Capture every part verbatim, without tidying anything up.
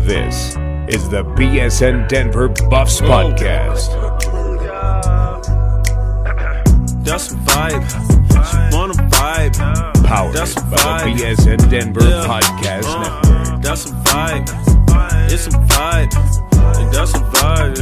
This is the B S N Denver Buffs Podcast. That's a vibe. She wanna vibe. Powered That's a by vibe. the B S N Denver Yeah. Podcast Uh, Network. That's a vibe. It's a vibe. And that's a vibe.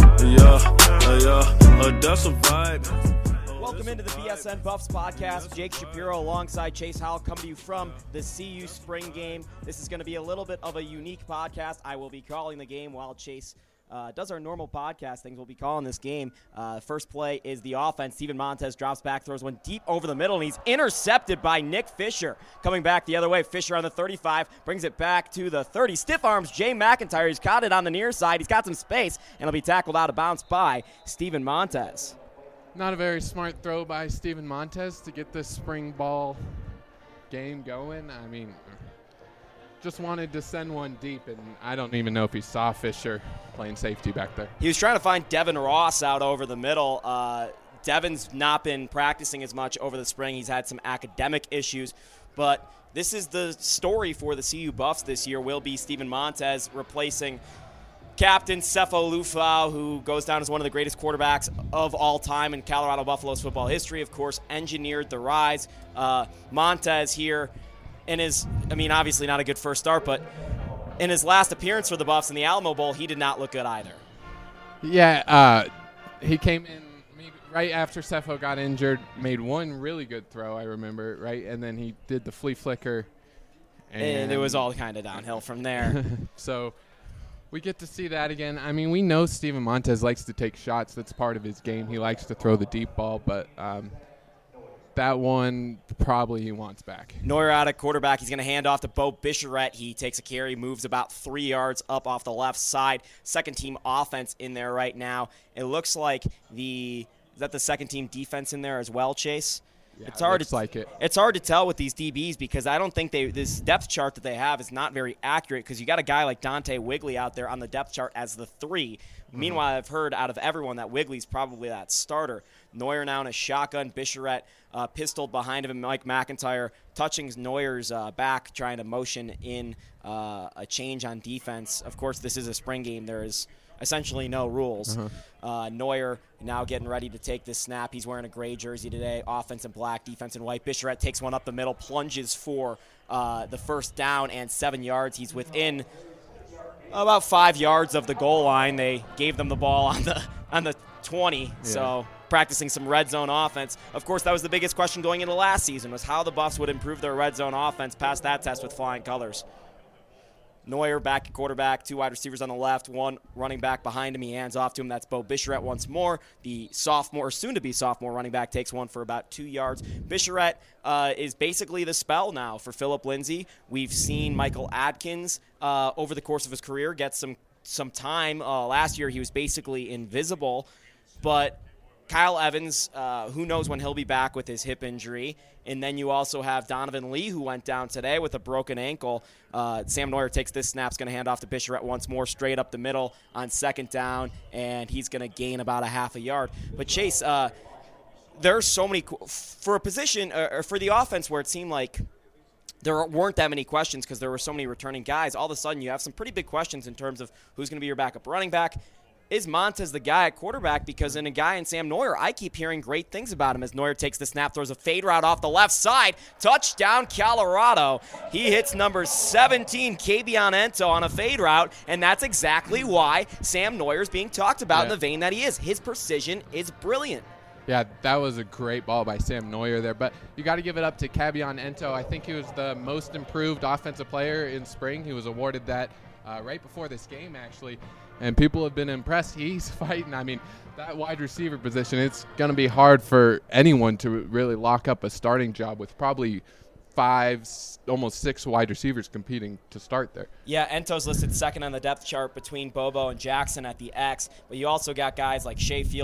Yeah, uh, yeah. Uh, that's a vibe. Welcome into the B S N Buffs Podcast. Jake Shapiro alongside Chase Howell coming to you from the C U Spring Game. This is going to be a little bit of a unique podcast. I will be calling the game while Chase uh, does our normal podcast things. We'll be calling this game. Uh, first play is the offense. Steven Montez drops back, throws one deep over the middle, and he's intercepted by Nick Fisher. Coming back the other way, Fisher on the thirty-five, brings it back to the thirty. Stiff arms Jay McIntyre. He's caught it on the near side. He's got some space, and he'll be tackled out of bounds by Steven Montez. Not a very smart throw by Steven Montez to get this spring ball game going. I mean, just wanted to send one deep, and I don't even know if he saw Fisher playing safety back there. He was trying to find Devin Ross out over the middle. Uh, Devin's not been practicing as much over the spring. He's had some academic issues, but this is the story for the C U Buffs this year. Will be Steven Montez replacing Captain Sefo Lufau, who goes down as one of the greatest quarterbacks of all time in Colorado Buffaloes football history, of course, engineered the rise. Uh, Montez here in his, I mean, obviously not a good first start, but in his last appearance for the Buffs in the Alamo Bowl, he did not look good either. Yeah, uh, he came in maybe right after Sefo got injured, made one really good throw, I remember, right? And then he did the flea flicker. And, and it was all kind of downhill from there. So we get to see that again. I mean, we know Steven Montez likes to take shots. That's part of his game. He likes to throw the deep ball, but um, that one probably he wants back. Neuer out at quarterback. He's going to hand off to Bo Bicheret. He takes a carry, moves about three yards up off the left side. Second team offense in there right now. It looks like the – is that the second team defense in there as well, Chase? Yeah, it's hard looks to, like it. It's hard to tell with these D Bs because I don't think they this depth chart that they have is not very accurate because you got a guy like Dante Wigley out there on the depth chart as the three. Mm-hmm. Meanwhile, I've heard out of everyone that Wigley's probably that starter. Neuer now in a shotgun. Bicheret uh, pistoled behind him, and Mike McIntyre touching Neuer's uh, back, trying to motion in uh, a change on defense. Of course, this is a spring game. There is essentially no rules. Uh-huh. Uh, Neuer now getting ready to take this snap. He's wearing a gray jersey today, offense in black, defense in white. Bicheret takes one up the middle, plunges for uh, the first down and seven yards. He's within about five yards of the goal line. They gave them the ball on the on the twenty, yeah. So practicing some red zone offense. Of course, that was the biggest question going into last season was how the Buffs would improve their red zone offense, pass that test with flying colors. Neuer back at quarterback, two wide receivers on the left, one running back behind him. He hands off to him. That's Bo Bicheret once more. The sophomore, soon-to-be sophomore running back takes one for about two yards. Bicheret uh, is basically the spell now for Philip Lindsay. We've seen Michael Adkins uh, over the course of his career get some, some time. Uh, last year he was basically invisible, but Kyle Evans, uh, who knows when he'll be back with his hip injury. And then you also have Donovan Lee, who went down today with a broken ankle. Uh, Sam Neuer takes this snap, is going to hand off to Bicheret once more, straight up the middle on second down, and he's going to gain about a half a yard. But, Chase, uh, there's so many – for a position uh, – or for the offense where it seemed like there weren't that many questions because there were so many returning guys, all of a sudden you have some pretty big questions in terms of who's going to be your backup running back. Is Montez the guy at quarterback? Because in a guy in Sam Neuer, I keep hearing great things about him as Neuer takes the snap, throws a fade route off the left side. Touchdown, Colorado. He hits number seventeen, Kabion Ento, on a fade route, and that's exactly why Sam Neuer is being talked about yeah. in the vein that he is. His precision is brilliant. Yeah, that was a great ball by Sam Neuer there, but you got to give it up to Kabion Ento. I think he was the most improved offensive player in spring. He was awarded that uh, right before this game, actually. And people have been impressed. He's fighting. I mean, that wide receiver position, it's going to be hard for anyone to really lock up a starting job with probably five, almost six wide receivers competing to start there. Yeah, Ento's listed second on the depth chart between Bobo and Jackson at the X, but you also got guys like Shea Fields.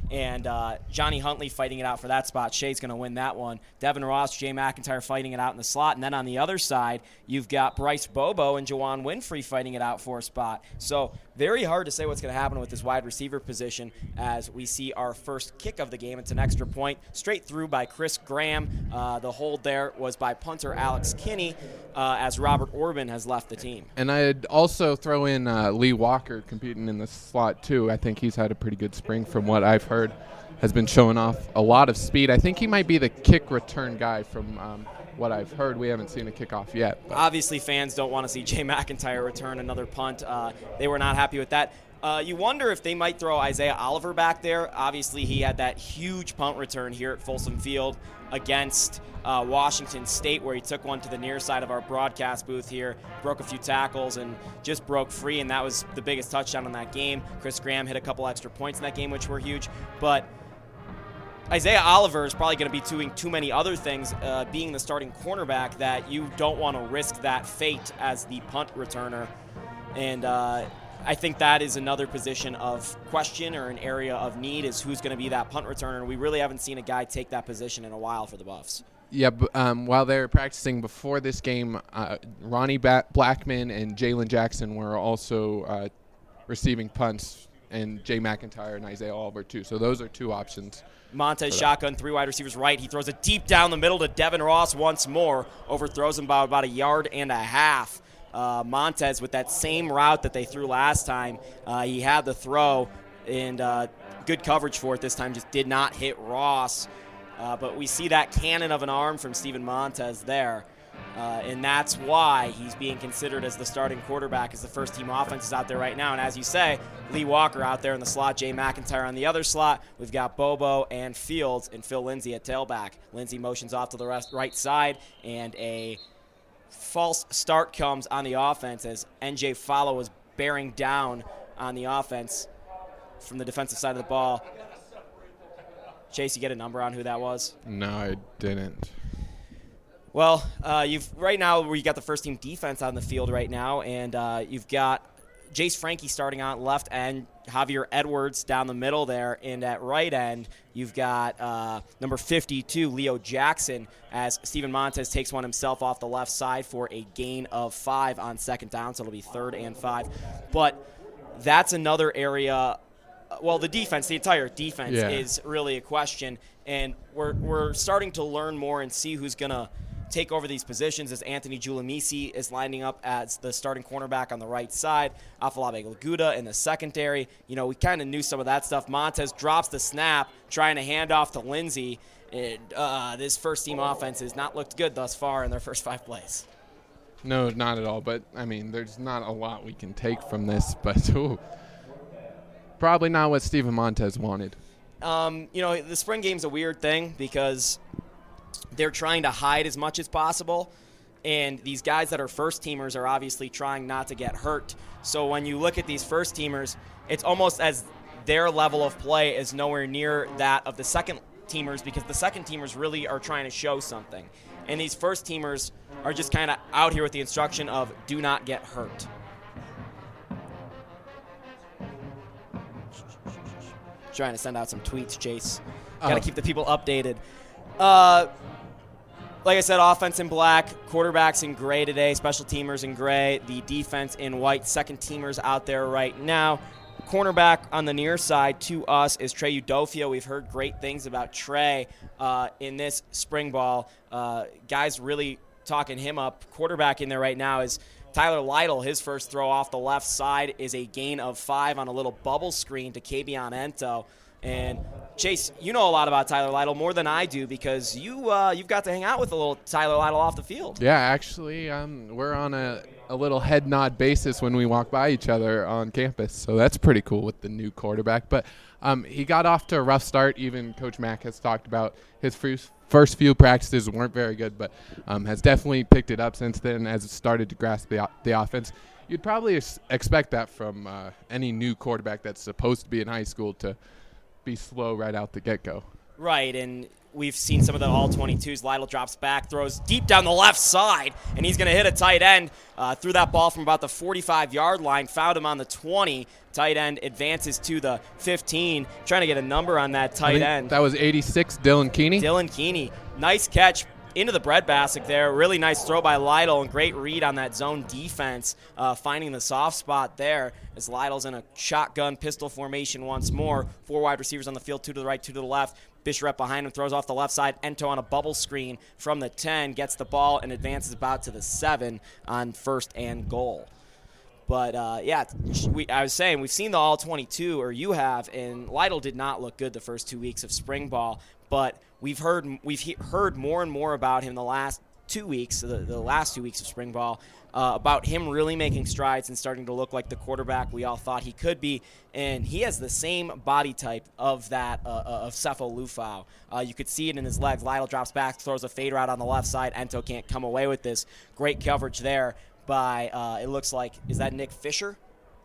and uh, Johnny Huntley fighting it out for that spot. Shea's going to win that one. Devin Ross, Jay McIntyre fighting it out in the slot. And then on the other side, you've got Bryce Bobo and Juwan Winfrey fighting it out for a spot. So very hard to say what's going to happen with this wide receiver position as we see our first kick of the game. It's an extra point straight through by Chris Graham. Uh, the hold there was by punter Alex Kinney uh, as Robert Orban has left the team. And I'd also throw in uh, Lee Walker competing in the slot, too. I think he's had a pretty good spring from what I've heard. Has been showing off a lot of speed. I think he might be the kick return guy from um, what I've heard. We haven't seen a kickoff yet. But. Obviously, fans don't want to see Jay McIntyre return another punt. Uh, they were not happy with that. Uh, you wonder if they might throw Isaiah Oliver back there. Obviously, he had that huge punt return here at Folsom Field against uh, Washington State, where he took one to the near side of our broadcast booth here, broke a few tackles, and just broke free, and that was the biggest touchdown in that game. Chris Graham hit a couple extra points in that game, which were huge. But Isaiah Oliver is probably going to be doing too many other things, uh, being the starting cornerback, that you don't want to risk that fate as the punt returner. And uh, I think that is another position of question or an area of need, is who's going to be that punt returner. We really haven't seen a guy take that position in a while for the Buffs. Yeah, but, um, while they were practicing before this game, uh, Ronnie ba- Blackman and Jalen Jackson were also uh, receiving punts, and Jay McIntyre and Isaiah Oliver too. So those are two options. Montez shotgun, three wide receivers right. He throws it deep down the middle to Devin Ross once more. Overthrows him by about a yard and a half. Uh, Montez with that same route that they threw last time. Uh, he had the throw, and uh, good coverage for it this time. Just did not hit Ross. Uh, but we see that cannon of an arm from Steven Montez there. Uh, and that's why he's being considered as the starting quarterback, as the first-team offense is out there right now. And as you say, Lee Walker out there in the slot, Jay McIntyre on the other slot. We've got Bobo and Fields and Phil Lindsay at tailback. Lindsay motions off to the rest, right side, and a false start comes on the offense as N J Follow was bearing down on the offense from the defensive side of the ball. Chase, you get a number on who that was? No, I didn't. Well, uh, you've right now we got the first team defense on the field right now, and uh, you've got Jace Frankie starting on left end, Javier Edwards down the middle there, and at right end you've got uh, number fifty-two, Leo Jackson, as Steven Montez takes one himself off the left side for a gain of five on second down, so it'll be third and five. But that's another area. Well, the defense, the entire defense yeah. is really a question, and we're we're starting to learn more and see who's gonna take over these positions, as Anthony Giulimisi is lining up as the starting cornerback on the right side, Afolabi Laguda in the secondary. You know, we kind of knew some of that stuff. Montez drops the snap, trying to hand off to Lindsay. And, uh, this first-team offense has not looked good thus far in their first five plays. No, not at all. But, I mean, there's not a lot we can take from this. But, ooh, probably not what Steven Montez wanted. Um, you know, the spring game's a weird thing because they're trying to hide as much as possible, and these guys that are first-teamers are obviously trying not to get hurt. So when you look at these first-teamers, it's almost as their level of play is nowhere near that of the second-teamers, because the second-teamers really are trying to show something. And these first-teamers are just kind of out here with the instruction of do not get hurt. Trying to send out some tweets, Chase. Got to Oh. keep the people updated. Uh, like I said, offense in black, quarterbacks in gray today, special teamers in gray, the defense in white, second teamers out there right now. Cornerback on the near side to us is Trey Udofio. We've heard great things about Trey uh, in this spring ball. Uh, guys really talking him up. Quarterback in there right now is Tyler Lytle. His first throw off the left side is a gain of five on a little bubble screen to Kabion Ento. And Chase, you know a lot about Tyler Lytle, more than I do, because you, uh, you've got to hang out with a little Tyler Lytle off the field. Yeah, actually, um, we're on a, a little head nod basis when we walk by each other on campus, so that's pretty cool with the new quarterback. But um, he got off to a rough start. Even Coach Mack has talked about his first, first few practices weren't very good, but um, has definitely picked it up since then as it started to grasp the, the offense. You'd probably ex- expect that from uh, any new quarterback that's supposed to be in high school to be slow right out the get-go. Right, and we've seen some of the all twenty-twos. Lytle drops back, throws deep down the left side, and he's going to hit a tight end. Uh, threw that ball from about the forty-five-yard line, found him on the twenty. Tight end advances to the fifteen, trying to get a number on that tight end. That was eighty-six, Dylan Keeney. Dylan Keeney. Nice catch into the breadbasket there. Really nice throw by Lytle and great read on that zone defense, uh, finding the soft spot there as Lytle's in a shotgun pistol formation once more. Four wide receivers on the field, two to the right, two to the left. Bishrep behind him, throws off the left side. Ento on a bubble screen from the ten, gets the ball and advances about to the seven on first and goal. But, uh, yeah, we, I was saying, we've seen the all twenty-two, or you have, and Lytle did not look good the first two weeks of spring ball. But we've heard we've he- heard more and more about him the last two weeks, the, the last two weeks of spring ball, uh, about him really making strides and starting to look like the quarterback we all thought he could be. And he has the same body type of that uh, of Sefo Lufau. Uh, you could see it in his legs. Lytle drops back, throws a fader out on the left side. Ento can't come away with this. Great coverage there by, uh, it looks like, is that Nick Fisher?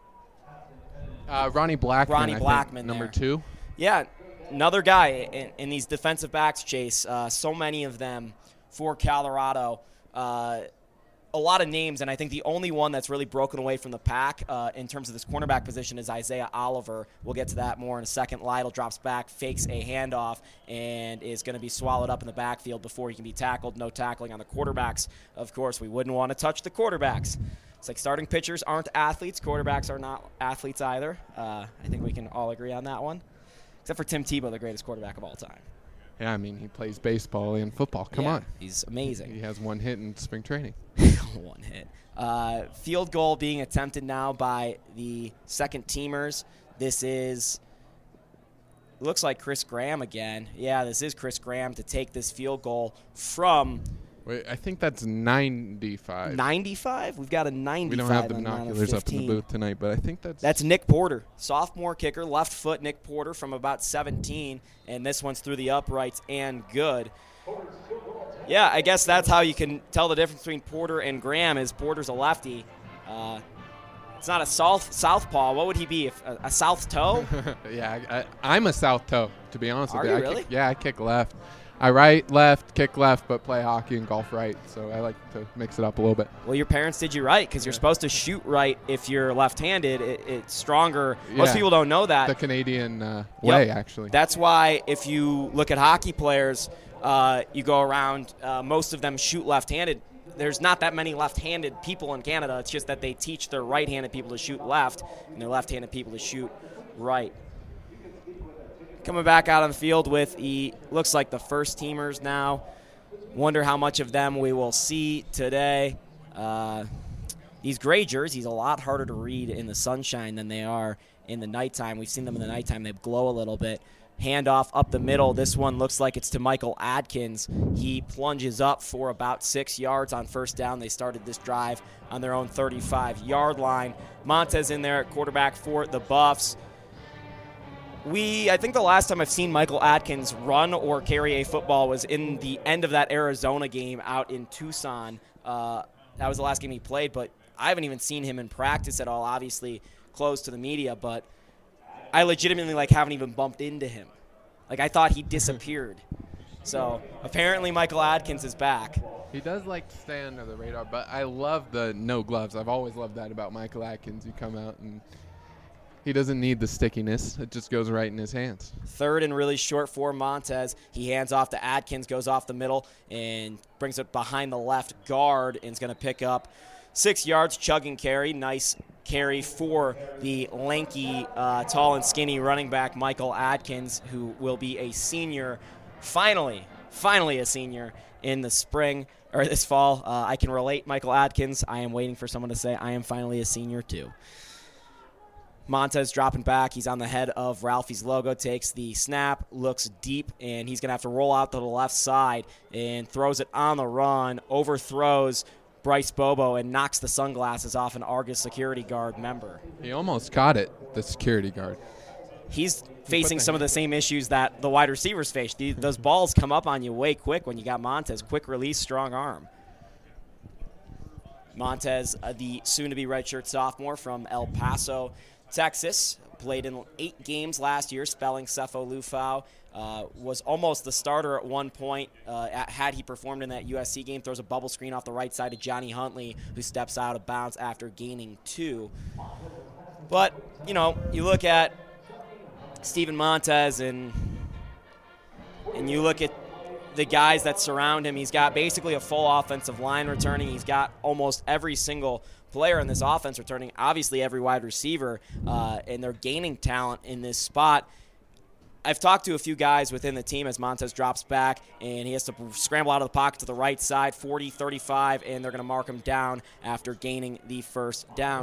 Uh, Ronnie Blackman, Ronnie I Blackman think, number there. two. Yeah, another guy in, in these defensive backs, Chase. Uh, so many of them for Colorado. Uh, a lot of names, and I think the only one that's really broken away from the pack uh, in terms of this cornerback position is Isaiah Oliver. We'll get to that more in a second. Lytle drops back, fakes a handoff, and is going to be swallowed up in the backfield before he can be tackled. No tackling on the quarterbacks. Of course, we wouldn't want to touch the quarterbacks. It's like starting pitchers aren't athletes. Quarterbacks are not athletes either. Uh, I think we can all agree on that one. Except for Tim Tebow, the greatest quarterback of all time. Yeah, I mean, he plays baseball and football. Come yeah, on. He's amazing. He has one hit in spring training. One hit. Uh, field goal being attempted now by the second teamers. This is, looks like Chris Graham again. Yeah, this is Chris Graham to take this field goal from Wait, I think that's ninety-five. ninety-five? We've got a ninety-five. We don't have the on binoculars up in the fifteen. booth tonight, but I think that's... That's Nick Porter, sophomore kicker, left foot Nick Porter from about seventeen, and this one's through the uprights and good. Yeah, I guess that's how you can tell the difference between Porter and Graham is Porter's a lefty. Uh, it's not a south southpaw. What would he be? If, a, a south toe? yeah, I, I, I'm a south toe, to be honest Are with you. you I really? Kick, yeah, I kick left. I right, left, kick left, but play hockey and golf right, so I like to mix it up a little bit. Well, your parents did you right because you're supposed to shoot right if you're left-handed. It, it's stronger. Most Yeah. people don't know that. The Canadian uh, Yep. way, actually. That's why if you look at hockey players, uh, you go around, uh, most of them shoot left-handed. There's not that many left-handed people in Canada. It's just that they teach their right-handed people to shoot left and their left-handed people to shoot right. Coming back out on the field with the, looks like the first teamers now. Wonder how much of them we will see today. Uh, these gray jerseys, a lot harder to read in the sunshine than they are in the nighttime. We've seen them in the nighttime. They glow a little bit. Handoff up the middle. This one looks like it's to Michael Adkins. He plunges up for about six yards on first down. They started this drive on their own thirty-five-yard line. Montez in there at quarterback for the Buffs. We, I think the last time I've seen Michael Adkins run or carry a football was in the end of that Arizona game out in Tucson. Uh, that was the last game he played, but I haven't even seen him in practice at all, obviously closed to the media, but I legitimately like haven't even bumped into him. Like I thought he disappeared. So apparently Michael Adkins is back. He does like to stay under the radar, but I love the no gloves. I've always loved that about Michael Adkins. You come out and he doesn't need the stickiness. It just goes right in his hands. Third and really short for Montez. He hands off to Adkins, goes off the middle, and brings it behind the left guard and is going to pick up six yards, chugging carry. Nice carry for the lanky, uh, tall and skinny running back Michael Adkins, who will be a senior, finally, finally a senior in the spring, or this fall. Uh, I can relate, Michael Adkins. I am waiting for someone to say I am finally a senior too. Montez dropping back. He's on the head of Ralphie's logo, takes the snap, looks deep, and he's going to have to roll out to the left side and throws it on the run, overthrows Bryce Bobo, and knocks the sunglasses off an Argus security guard member. He almost caught it, the security guard. He's facing some of the same issues that the wide receivers face. The, those balls come up on you way quick when you got Montez. Quick release, strong arm. Montez, uh, the soon-to-be redshirt sophomore from El Paso, Texas, played in eight games last year, spelling Sefo Liufau. Uh, was almost the starter at one point. Uh, at, had he performed in that U S C game, throws a bubble screen off the right side to Johnny Huntley, who steps out of bounds after gaining two. But, you know, you look at Steven Montez and and you look at the guys that surround him. He's got basically a full offensive line returning. He's got almost every single player in this offense returning, obviously every wide receiver, uh, and they're gaining talent in this spot. I've talked to a few guys within the team as Montez drops back, and he has to scramble out of the pocket to the right side, forty thirty-five, and they're going to mark him down after gaining the first down.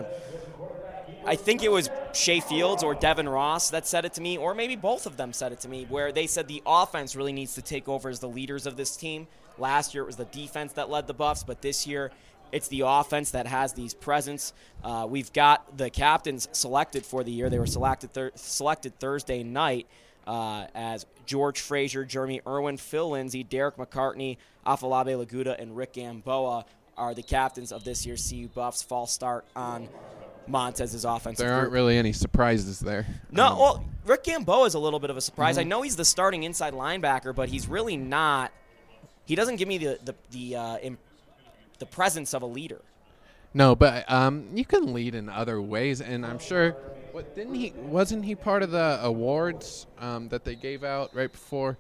I think it was Shea Fields or Devin Ross that said it to me, or maybe both of them said it to me, where they said the offense really needs to take over as the leaders of this team. Last year it was the defense that led the Buffs, but this year it's the offense that has these presence. Uh, we've got the captains selected for the year. They were selected thir- selected Thursday night. Uh, as George Frazier, Jeremy Irwin, Phil Lindsay, Derek McCartney, Afolabi Laguda, and Rick Gamboa are the captains of this year's C U Buffs. False start on Montez's offensive There aren't group. really any surprises there. No, Um, well, Rick Gamboa is a little bit of a surprise. Mhm. I know he's the starting inside linebacker, but he's really not. He doesn't give me the the the, uh, imp, the presence of a leader. No, but um, you can lead in other ways, and I'm sure. What didn't he? Wasn't he part of the awards um, that they gave out right before?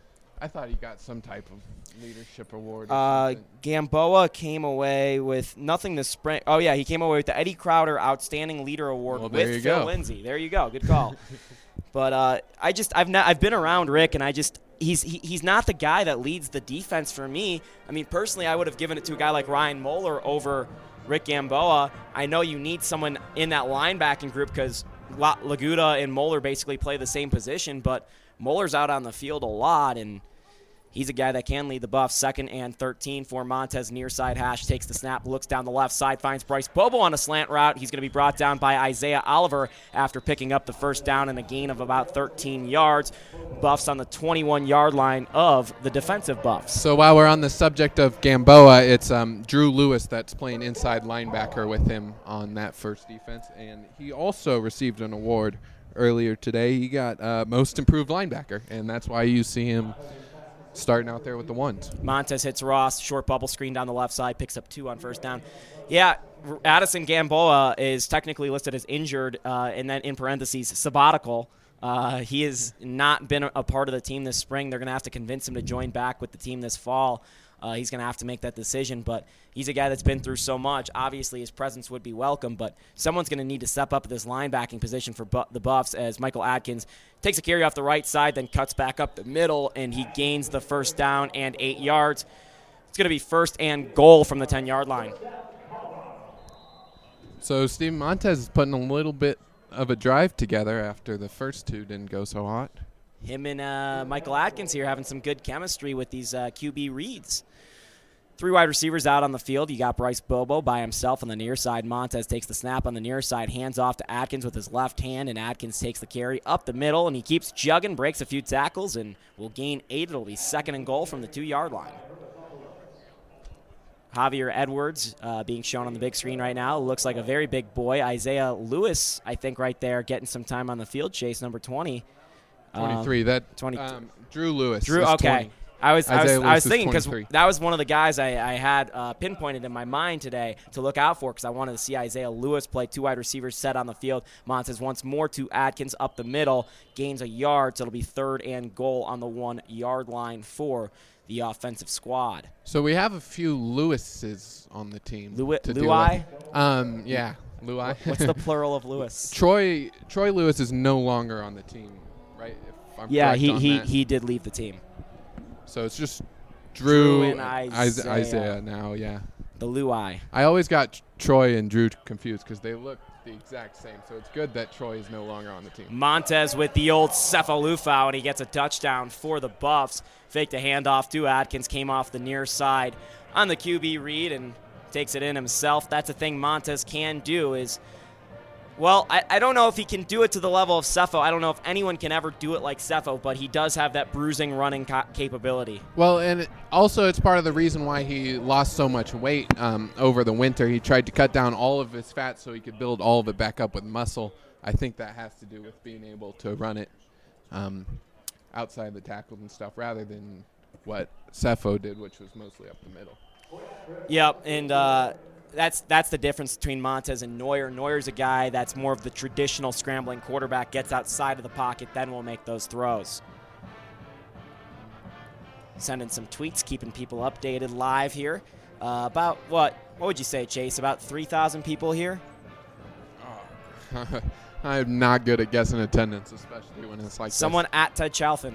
I thought he got some type of leadership award. Or Uh, something. Gamboa came away with nothing this spring. Oh yeah, he came away with the Eddie Crowder Outstanding Leader Award Well, there with you Phil go. Lindsay. There you go, good call. But uh, I just I've not I've been around Rick, and I just he's he, he's not the guy that leads the defense for me. I mean, personally, I would have given it to a guy like Ryan Moeller over Rick Gamboa. I know you need someone in that linebacking group because La- Laguda and Moeller basically play the same position, but Moeller's out on the field a lot, and he's a guy that can lead the Buffs. Second and thirteen for Montez, near side hash, takes the snap, looks down the left side, finds Bryce Bobo on a slant route. He's going to be brought down by Isaiah Oliver after picking up the first down and a gain of about thirteen yards. Buffs on the twenty-one-yard line of the defensive Buffs. So while we're on the subject of Gamboa, it's um, Drew Lewis that's playing inside linebacker with him on that first defense, and he also received an award earlier today. He got uh, most improved linebacker, and that's why you see him starting out there with the ones. Montez hits Ross, short bubble screen down the left side, picks up two on first down. Yeah, Addison Gamboa is technically listed as injured, uh, and then in parentheses, sabbatical. Uh, he has not been a part of the team this spring. They're going to have to convince him to join back with the team this fall. Uh, he's going to have to make that decision, but he's a guy that's been through so much. Obviously, his presence would be welcome, but someone's going to need to step up at this linebacking position for bu- the Buffs as Michael Adkins takes a carry off the right side, then cuts back up the middle, and he gains the first down and eight yards. It's going to be first and goal from the ten-yard line. So Steve Montez is putting a little bit of a drive together after the first two didn't go so hot. Him and uh, Michael Adkins here having some good chemistry with these uh, Q B reads. Three wide receivers out on the field. You got Bryce Bobo by himself on the near side. Montez takes the snap on the near side, hands off to Adkins with his left hand, and Adkins takes the carry up the middle, and he keeps jugging, breaks a few tackles, and will gain eight. It'll be second and goal from the two-yard line. Javier Edwards uh, being shown on the big screen right now. Looks like a very big boy. Isaiah Lewis, I think, right there, getting some time on the field. Chase, number twenty. twenty-three. Um, that twenty. um, Drew Lewis. Drew, is okay. twenty. I was, I was, Isaiah I Lewis was is thinking because twenty-three. that was one of the guys I, I had uh, pinpointed in my mind today to look out for because I wanted to see Isaiah Lewis play. Two wide receivers set on the field. Montez once more to Adkins up the middle, gains a yard, so it'll be third and goal on the one-yard line for the offensive squad. So we have a few Lewises on the team. Lewi- to deal Luai? with. Um, yeah, Luai. What's the plural of Lewis? Troy Troy Lewis is no longer on the team, right? If I'm Yeah, correct he on he, that. he did leave the team. So it's just Drew, Drew and Is- Isaiah. Isaiah now, yeah. The Luai. I always got Troy and Drew confused because they look the exact same. So it's good that Troy is no longer on the team. Montez with the old Cephalufau, and he gets a touchdown for the Buffs. Faked a handoff to Adkins, came off the near side on the Q B read and takes it in himself. That's a thing Montez can do is Well, I, I don't know if he can do it to the level of Sefo. I don't know if anyone can ever do it like Sefo, but he does have that bruising running ca- capability. Well, and it, also it's part of the reason why he lost so much weight um, over the winter. He tried to cut down all of his fat so he could build all of it back up with muscle. I think that has to do with being able to run it um, outside the tackles and stuff rather than what Sefo did, which was mostly up the middle. Yep, and uh, that's that's the difference between Montez and Neuer. Neuer's a guy that's more of the traditional scrambling quarterback, gets outside of the pocket, then will make those throws. Sending some tweets, keeping people updated live here. Uh, about what? What would you say, Chase? About three thousand people here? I'm not good at guessing attendance, especially when it's like Someone this. at Ted Chalfin.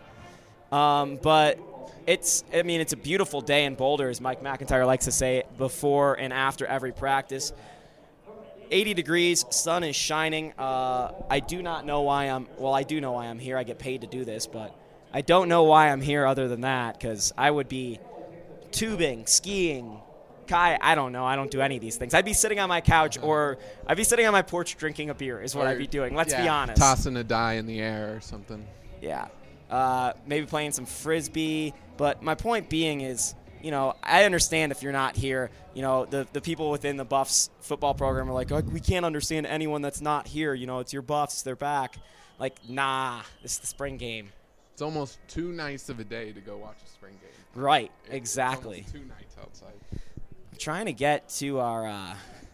Um, but it's, I mean, it's a beautiful day in Boulder, as Mike McIntyre likes to say, before and after every practice. eighty degrees, sun is shining. Uh, I do not know why I'm, well, I do know why I'm here. I get paid to do this, but I don't know why I'm here other than that, because I would be tubing, skiing, Kai, I don't know. I don't do any of these things. I'd be sitting on my couch or I'd be sitting on my porch drinking a beer is what Or, I'd be doing. Let's yeah, be honest. Tossing a die in the air or something. Yeah. Uh, maybe playing some Frisbee. But my point being is, you know, I understand if you're not here. You know, the, the people within the Buffs football program are like, oh, we can't understand anyone that's not here. You know, it's your Buffs. They're back. Like, nah, this is the spring game. It's almost too nice of a day to go watch a spring game. Right, It's exactly. almost too nice outside. Trying to get to our uh,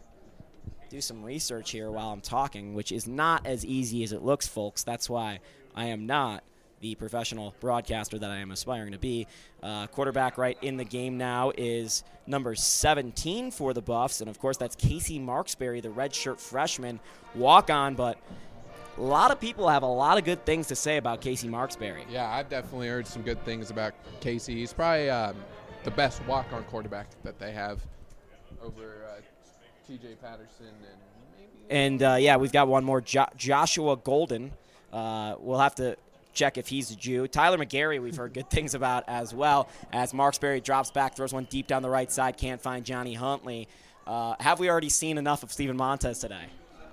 do some research here while I'm talking, which is not as easy as it looks, folks. That's why I am not the professional broadcaster that I am aspiring to be. Uh, quarterback right in the game now is number seventeen for the Buffs, and of course that's Casey Marksberry, the redshirt freshman walk-on. But a lot of people have a lot of good things to say about Casey Marksberry. Yeah, I've definitely heard some good things about Casey. He's probably um, the best walk-on quarterback that they have over uh, T J Patterson and maybe. And, uh, yeah, we've got one more, jo- Joshua Golden. Uh, we'll have to check if he's a Jew. Tyler McGarry we've heard good things about as well, as Marksberry drops back, throws one deep down the right side, can't find Johnny Huntley. Uh, have we already seen enough of Steven Montez today?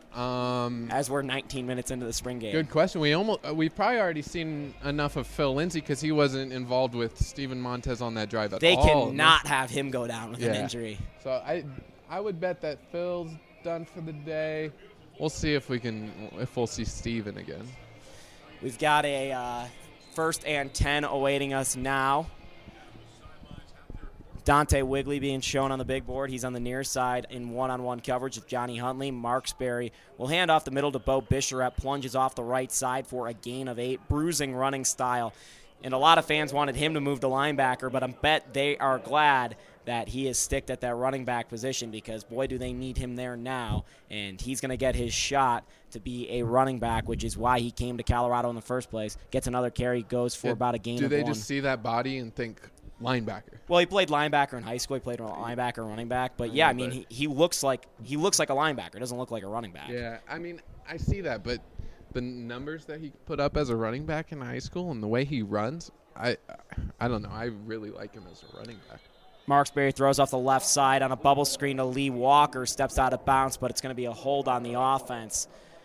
Um, As we're nineteen minutes into the spring game. Good question. We almost uh, we've probably already seen enough of Phil Lindsay because he wasn't involved with Steven Montez on that drive at They all. cannot have him go down with Yeah. an injury. So I I would bet that Phil's done for the day. We'll see if we can if we'll see Steven again. We've got a uh, first and ten awaiting us now. Dante Wigley being shown on the big board. He's on the near side in one-on-one coverage with Johnny Huntley. Marksberry will hand off the middle to Bo Bisharet. Plunges off the right side for a gain of eight. Bruising running style. And a lot of fans wanted him to move to linebacker, but I bet they are glad that he is sticked at that running back position because, boy, do they need him there now. And he's going to get his shot to be a running back, which is why he came to Colorado in the first place. Gets another carry, goes for Yeah, about a gain Do of they one. just see that body and think linebacker? Well, he played linebacker in high school. He played linebacker, running back. But yeah, I mean, he, he looks like he looks like a linebacker. He doesn't look like a running back. Yeah, I mean, I see that, but the numbers that he put up as a running back in high school and the way he runs, I, I don't know. I really like him as a running back. Marksberry throws off the left side on a bubble screen to Lee Walker. Steps out of bounds, but it's going to be a hold on the offense.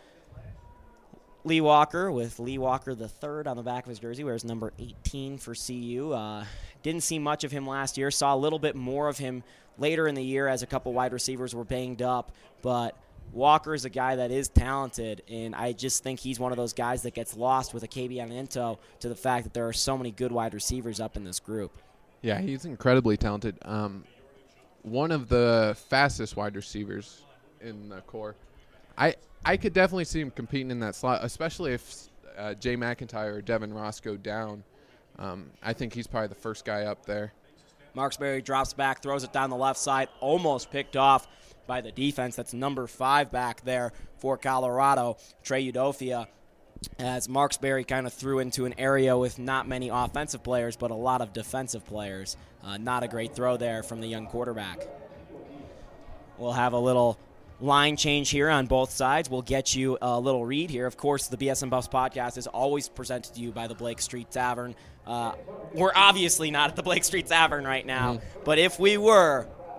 Lee Walker with Lee Walker the third on the back of his jersey, wears number eighteen for C U. Uh, didn't see much of him last year. Saw a little bit more of him later in the year as a couple wide receivers were banged up. But Walker is a guy that is talented, and I just think he's one of those guys that gets lost with a Kabion Ento to the fact that there are so many good wide receivers up in this group. Yeah, he's incredibly talented. Um, one of the fastest wide receivers in the core. I I could definitely see him competing in that slot, especially if uh, Jay McIntyre or Devin Ross go down. Um, I think he's probably the first guy up there. Marksberry drops back, throws it down the left side, almost picked off by the defense. That's number five back there for Colorado, Trey Udofia, as Marksberry kind of threw into an area with not many offensive players, but a lot of defensive players. Uh, not a great throw there from the young quarterback. We'll have a little line change here on both sides. We'll get you a little read here. Of course, the B S N Buffs podcast is always presented to you by the Blake Street Tavern. Uh, we're obviously not at the Blake Street Tavern right now, mm-hmm. but if we were,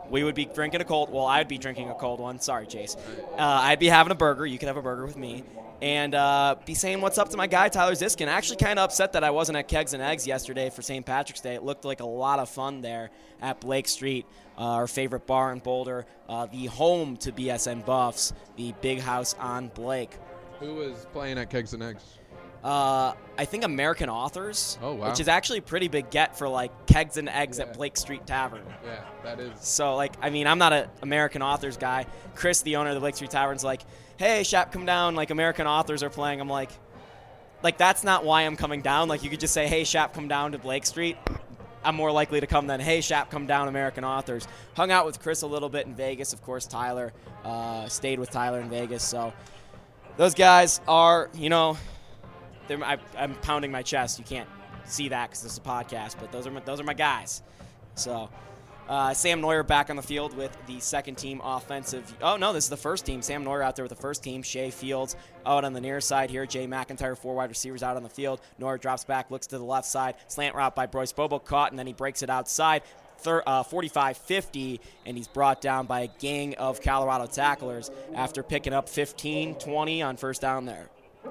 We would be drinking a cold. Well, I'd be drinking a cold one. Sorry, Chase. Uh, I'd be having a burger. You could have a burger with me. And uh, be saying what's up to my guy, Tyler Ziskin. Actually kind of upset that I wasn't at Kegs and Eggs yesterday for Saint Patrick's Day. It looked like a lot of fun there at Blake Street, uh, our favorite bar in Boulder, uh, the home to B S N Buffs, the big house on Blake. Who was playing at Kegs and Eggs? Uh, I think American Authors, oh, wow. which is actually a pretty big get for, like, Kegs and Eggs yeah. at Blake Street Tavern. Yeah, that is. So, like, I mean, I'm not an American Authors guy. Chris, the owner of the Blake Street Tavern's like, hey, Shap, come down. Like, American Authors are playing. I'm like, like, that's not why I'm coming down. Like, you could just say, hey, Shap, come down to Blake Street. I'm more likely to come than, hey, Shap, come down, American Authors. Hung out with Chris a little bit in Vegas. Of course, Tyler uh, stayed with Tyler in Vegas. So those guys are, you know, they're, I, I'm pounding my chest. You can't see that because this is a podcast, but those are my, those are my guys. So uh, Sam Neuer back on the field with the second team offensive. Oh, no, this is the first team. Sam Neuer out there with the first team. Shea Fields out on the near side here. Jay McIntyre, four wide receivers out on the field. Neuer drops back, looks to the left side. Slant route by Bryce Bobo, caught, and then he breaks it outside. forty-five fifty, and he's brought down by a gang of Colorado tacklers after picking up fifteen twenty on first down there.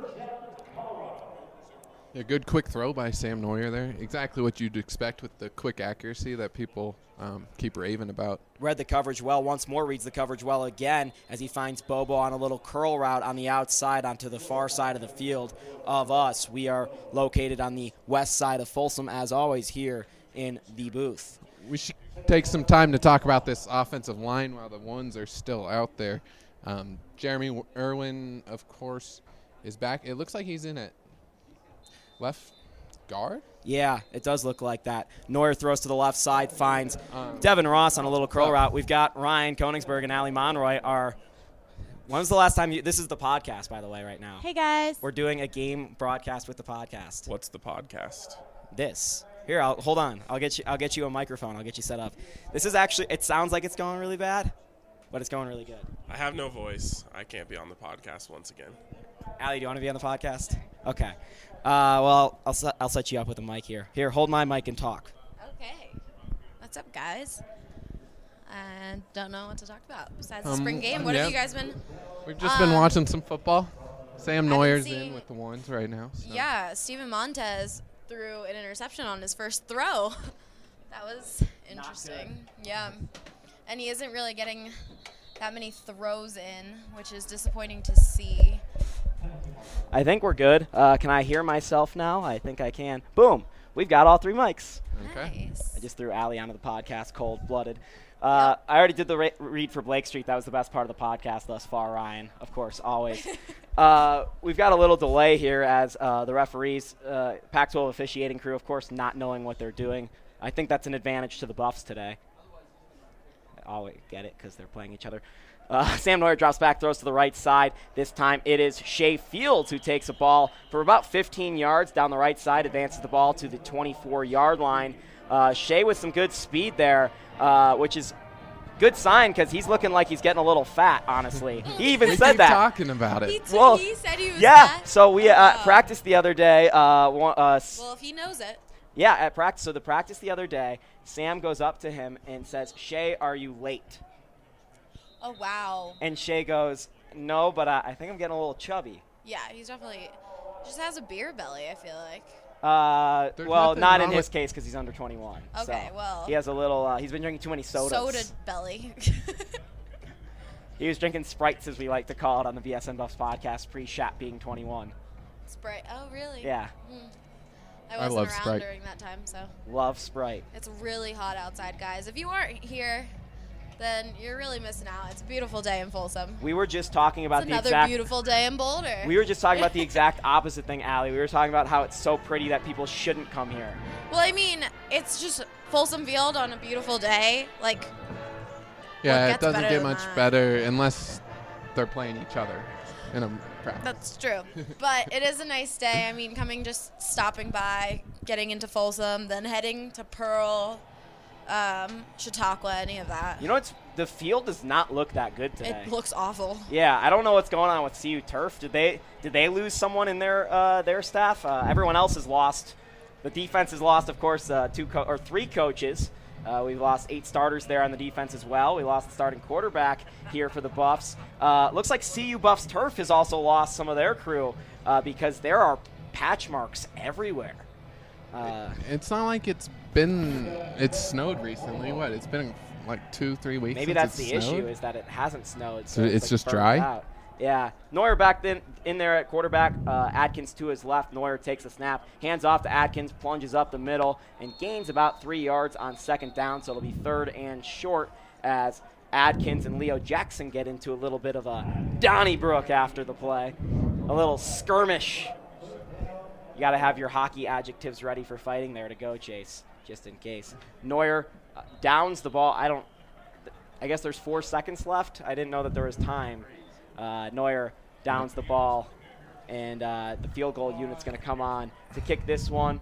A good quick throw by Sam Neuer there. Exactly what you'd expect with the quick accuracy that people um, keep raving about. Read the coverage well. Once more reads the coverage well again as he finds Bobo on a little curl route on the outside onto the far side of the field of us. We are located on the west side of Folsom, as always, here in the booth. We should take some time to talk about this offensive line while the ones are still out there. Um, Jeremy Irwin, of course, is back. It looks like he's in at left guard? Yeah, it does look like that. Neuer throws to the left side, finds Um, Devin Ross on a little curl route. We've got Ryan Koenigsberg and Ali Monroy. Are when was the last time you? This is the podcast, by the way, right now. Hey guys. We're doing a game broadcast with the podcast. What's the podcast? This here, I'll hold on. I'll get you. I'll get you a microphone. I'll get you set up. This is actually. It sounds like it's going really bad, but it's going really good. I have no voice. I can't be on the podcast once again. Ali, do you want to be on the podcast? Okay. Uh, well, I'll set, I'll set you up with a mic here. Here, hold my mic and talk. Okay. What's up, guys? I don't know what to talk about besides the Um, spring game. What yeah. have you guys been? We've just been Um, watching some football. Sam I've been Neuer's seeing- in with the ones right now. So. Yeah, Steven Montez threw an interception on his first throw. That was interesting. Yeah. And he isn't really getting that many throws in, which is disappointing to see. I think we're good. Uh, can I hear myself now? I think I can. Boom. We've got all three mics. Okay. Nice. I just threw Ali onto the podcast cold-blooded. Uh, I already did the ra- read for Blake Street. That was the best part of the podcast thus far, Ryan. Of course, always. uh, we've got a little delay here as uh, the referees, uh, Pac twelve officiating crew, of course, not knowing what they're doing. I think that's an advantage to the Buffs today. I always get it because they're playing each other. Uh, Sam Neuer drops back, throws to the right side. This time it is Shea Fields who takes a ball for about fifteen yards down the right side, advances the ball to the twenty-four-yard line. Uh, Shea with some good speed there, uh, which is good sign because he's looking like he's getting a little fat, honestly. He even We said keep that. talking about He, it. t- Well, he said he was Yeah, fat? so we uh, Oh. practiced the other day. Uh, one- uh, s- Well, if he knows it. yeah, at practice. So the practice the other day, Sam goes up to him and says, Shea, are you late? Oh, wow. And Shea goes, no, but uh, I think I'm getting a little chubby. Yeah, he's definitely just has a beer belly, I feel like. Uh, There's well, nothing not in wrong his with- case because he's under twenty-one. Okay, so well. he has a little. Uh, he's been drinking too many sodas. Soda belly. He was drinking Sprites, as we like to call it on the B S N Buffs podcast, pre-Shap being twenty-one. Sprite. Oh, really? Yeah, Hmm. I I wasn't love around Sprite. during that time, so. love Sprite. It's really hot outside, guys. If you aren't here, then you're really missing out. It's a beautiful day in Folsom. We were just talking about It's the another exact. beautiful day in Boulder. We were just talking about the exact opposite thing, Allie. We were talking about how it's so pretty that people shouldn't come here. Well, I mean, it's just Folsom Field on a beautiful day. Like, Yeah, it gets doesn't better get than much that? better unless they're playing each other in a practice. that's true. But it is a nice day. I mean, coming just stopping by, getting into Folsom, then heading to Pearl, um, Chautauqua, any of that. You know, it's the field does not look that good today. It looks awful. Yeah, I don't know what's going on with C U Turf. Did they did they lose someone in their uh, their staff? Uh, everyone else has lost. The defense has lost, of course, uh, two co- or three coaches, Uh, we've lost eight starters there on the defense as well. We lost the starting quarterback here for the Buffs. Uh, looks like C U Buffs Turf has also lost some of their crew uh, because there are patch marks everywhere. Uh, it's not like it's been it's snowed recently. What? It's been like two, three weeks. Maybe since that's it's the snowed? issue is that it hasn't snowed. So So it's like just burned dry? out. Yeah. Neuer back then in there at quarterback. Uh, Atkins to his left. Neuer takes the snap, hands off to Atkins, plunges up the middle, and gains about three yards on second down. So it'll be third and short as Adkins and Leo Jackson get into a little bit of a Donnybrook after the play. A little skirmish. You got to have your hockey adjectives ready for fighting there to go, Chase, just in case. Neuer uh, downs the ball. I don't – I guess there's four seconds left. I didn't know that there was time. Uh, Neuer downs the ball, and uh, the field goal unit's going to come on to kick this one.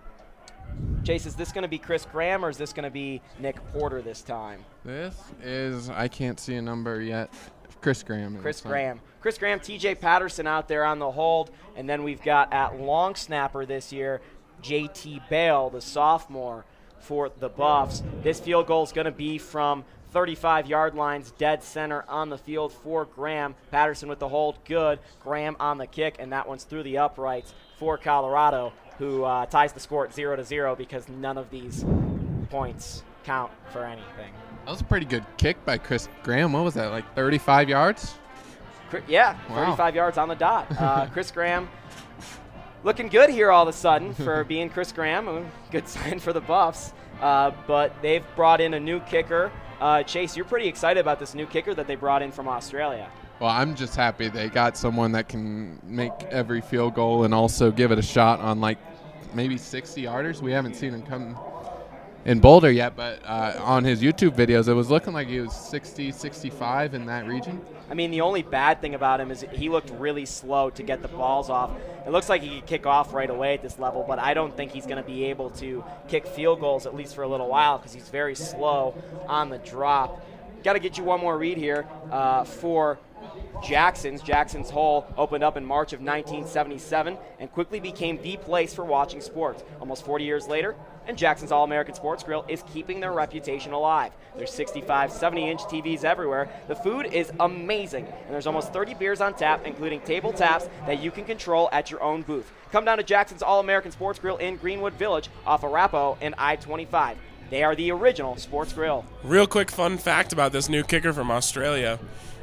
Chase, is this going to be Chris Graham or is this going to be Nick Porter this time? This is I can't see a number yet. Chris Graham. Chris is, Graham. Chris Graham, T J Patterson out there on the hold, and then we've got at long snapper this year, J T Bale, the sophomore for the Buffs. This field goal is going to be from thirty-five yard lines, dead center on the field for Graham. Patterson with the hold, good. Graham on the kick, and that one's through the uprights for Colorado, who uh, ties the score at zero to zero because none of these points count for anything. That was a pretty good kick by Chris Graham. What was that, like thirty-five yards? Yeah, Wow. thirty-five yards on the dot. Uh, Chris Graham looking good here all of a sudden for being Chris Graham. Good sign for the Buffs. Uh, but they've brought in a new kicker. Uh, Chase, you're pretty excited about this new kicker that they brought in from Australia. Well, I'm just happy they got someone that can make every field goal and also give it a shot on like maybe sixty yarders. We haven't seen him come in Boulder yet, but uh, on his YouTube videos, it was looking like he was sixty, sixty-five in that region. I mean, the only bad thing about him is he looked really slow to get the balls off. It looks like he could kick off right away at this level, but I don't think he's going to be able to kick field goals, at least for a little while, because he's very slow on the drop. Got to get you one more read here uh, for Jackson's. Jackson's Hole opened up in March of nineteen seventy-seven and quickly became the place for watching sports. Almost forty years later, and Jackson's All-American Sports Grill is keeping their reputation alive. There's sixty-five, seventy-inch T Vs everywhere. The food is amazing, and there's almost thirty beers on tap, including table taps that you can control at your own booth. Come down to Jackson's All-American Sports Grill in Greenwood Village off Arapahoe and I twenty-five. They are the original sports grill. Real quick fun fact about this new kicker from Australia.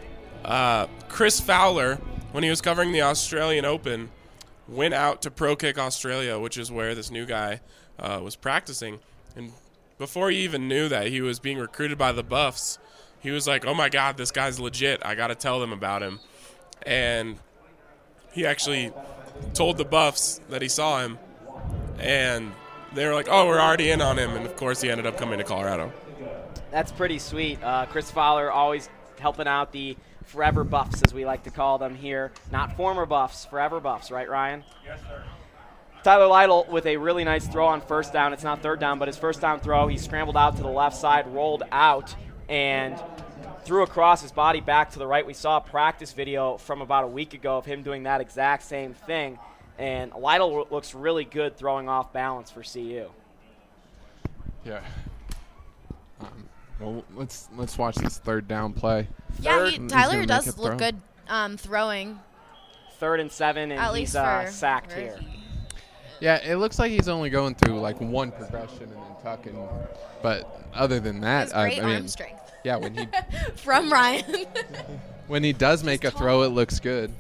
Uh, Chris Fowler, when he was covering the Australian Open, went out to Pro Kick Australia, which is where this new guy uh, was practicing. And before he even knew that he was being recruited by the Buffs, he was like, oh my God, this guy's legit. I got to tell them about him. And he actually told the Buffs that he saw him, and they were like, oh, we're already in on him. And, of course, he ended up coming to Colorado. That's pretty sweet. Uh, Chris Fowler always helping out the forever Buffs, as we like to call them here. Not former Buffs, forever Buffs, right, Ryan? Yes, sir. Tyler Lytle with a really nice throw on first down. It's not third down, but his first down throw, he scrambled out to the left side, rolled out, and threw across his body back to the right. We saw a practice video from about a week ago of him doing that exact same thing. And Lytle looks really good throwing off balance for C U. Yeah. Um, well, let's let's watch this third down play. Yeah, he, He's Tyler gonna make does a look throw. good um, throwing. Third and seven, and At he's least uh, for sacked rookie. here. Yeah, it looks like he's only going through like one progression and then tucking. But other than He that, has I, great I arm mean, strength. yeah, when he From Ryan. when he does make a throw, it looks good.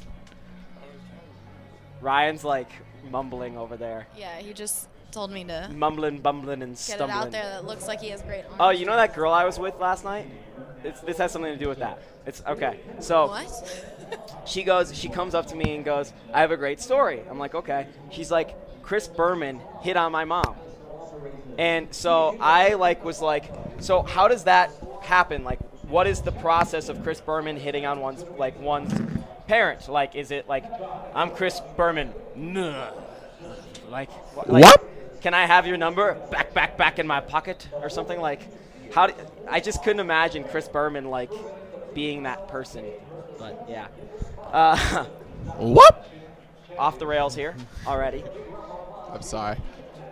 Ryan's like mumbling over there. Yeah, he just told me to Mumbling, bumbling, and get stumbling. it out there that looks like he has great arm Oh, you know that girl I was with last night? It's, this has something to do with that. It's okay. So What? she goes, she comes up to me and goes, I have a great story. I'm like, okay. She's like, Chris Berman hit on my mom. And so I like was like, so how does that happen? Like, what is the process of Chris Berman hitting on one's like one's parent? Like, is it like, I'm Chris Berman? Nah. Like, wh- like What? Can I have your number? Back, back, back in my pocket or something like. How? Do, I just couldn't imagine Chris Berman like being that person. But yeah. Uh, What? off the rails here already. I'm sorry.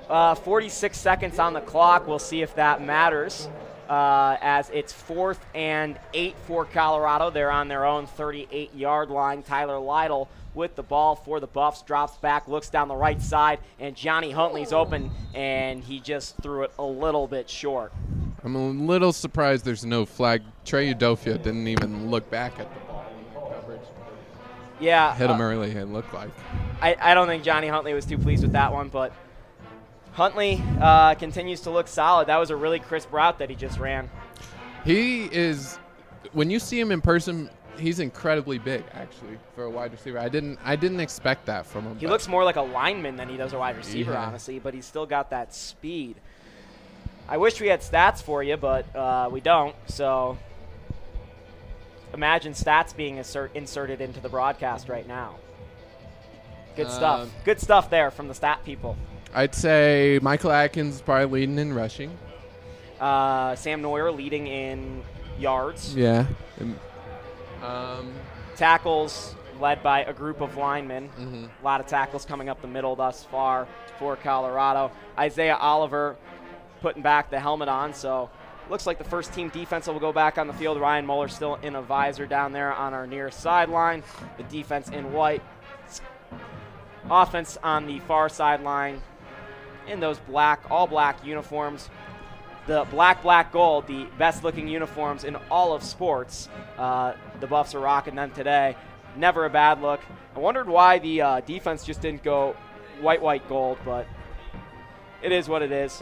Uh, forty-six seconds on the clock. We'll see if that matters. Uh, as it's fourth and eight for Colorado. They're on their own thirty-eight-yard line. Tyler Lytle with the ball for the Buffs, drops back, looks down the right side, and Johnny Huntley's open, and he just threw it a little bit short. I'm a little surprised there's no flag. Trey Udofia didn't even look back at the ball in that coverage. Yeah. Hit him uh, early, it looked like. I, I don't think Johnny Huntley was too pleased with that one, but Huntley uh, continues to look solid. That was a really crisp route that he just ran. He is, when you see him in person, he's incredibly big, actually, for a wide receiver. I didn't I didn't expect that from him. He but. looks more like a lineman than he does a wide receiver, Yeah. honestly, but he's still got that speed. I wish we had stats for you, but uh, we don't, so imagine stats being insert, inserted into the broadcast right now. Good stuff. Um, Good stuff there from the stat people. I'd say Michael Atkins is probably leading in rushing. Uh, Sam Neuer leading in yards. Yeah. Um, Tackles led by a group of linemen. mm-hmm. A lot of tackles coming up the middle thus far for Colorado. Isaiah Oliver putting back the helmet on, so looks like the first team defense will go back on the field. Ryan Mueller still in a visor down there on our near sideline. The defense in white. Offense on the far sideline in those black, all black uniforms. The black, black, gold, the best looking uniforms in all of sports. Uh, the Buffs are rocking them today. Never a bad look. I wondered why the uh, defense just didn't go white, white, gold, but it is what it is.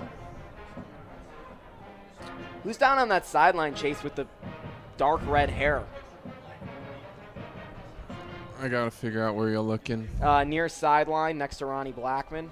Who's down on that sideline, Chase, with the dark red hair? I got to figure out where you're looking. Uh, near sideline, next to Ronnie Blackman.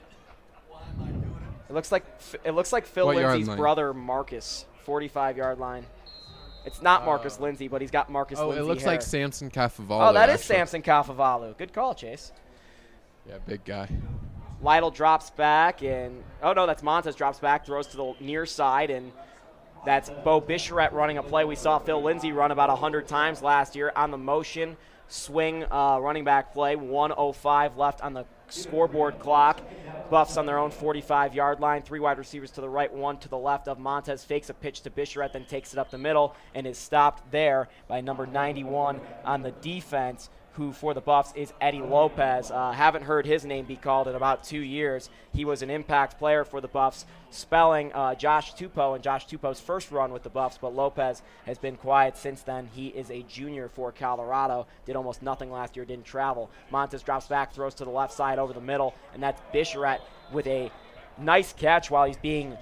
It looks like it looks like Phil What yard Lindsay's line? brother, Marcus, forty-five-yard line. It's not Marcus Lindsay, but he's got Marcus Oh, Lindsay it looks hair. like Samson Cafavalu. Oh, that is actually. Samson Kafavalu. Good call, Chase. Yeah, big guy. Lytle drops back, and oh no, that's Montez drops back, throws to the near side, and that's Bo Bicheret running a play we saw Phil Lindsay run about one hundred times last year on the motion swing uh, running back play. one oh five left on the scoreboard clock. Buffs on their own forty-five-yard line. Three wide receivers to the right, one to the left of Montez. Fakes a pitch to Bicheret, then takes it up the middle and is stopped there by number ninety-one on the defense, who for the Buffs is Eddie Lopez. Uh, haven't heard his name be called in about two years. He was an impact player for the Buffs, spelling uh, Josh Tupou in Josh Tupou's first run with the Buffs, but Lopez has been quiet since then. He is a junior for Colorado, did almost nothing last year, didn't travel. Montez drops back, throws to the left side over the middle, and that's Bicheret with a nice catch while he's being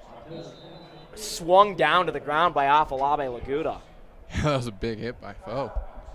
swung down to the ground by Afolabi Laguda. That was a big hit by Foe.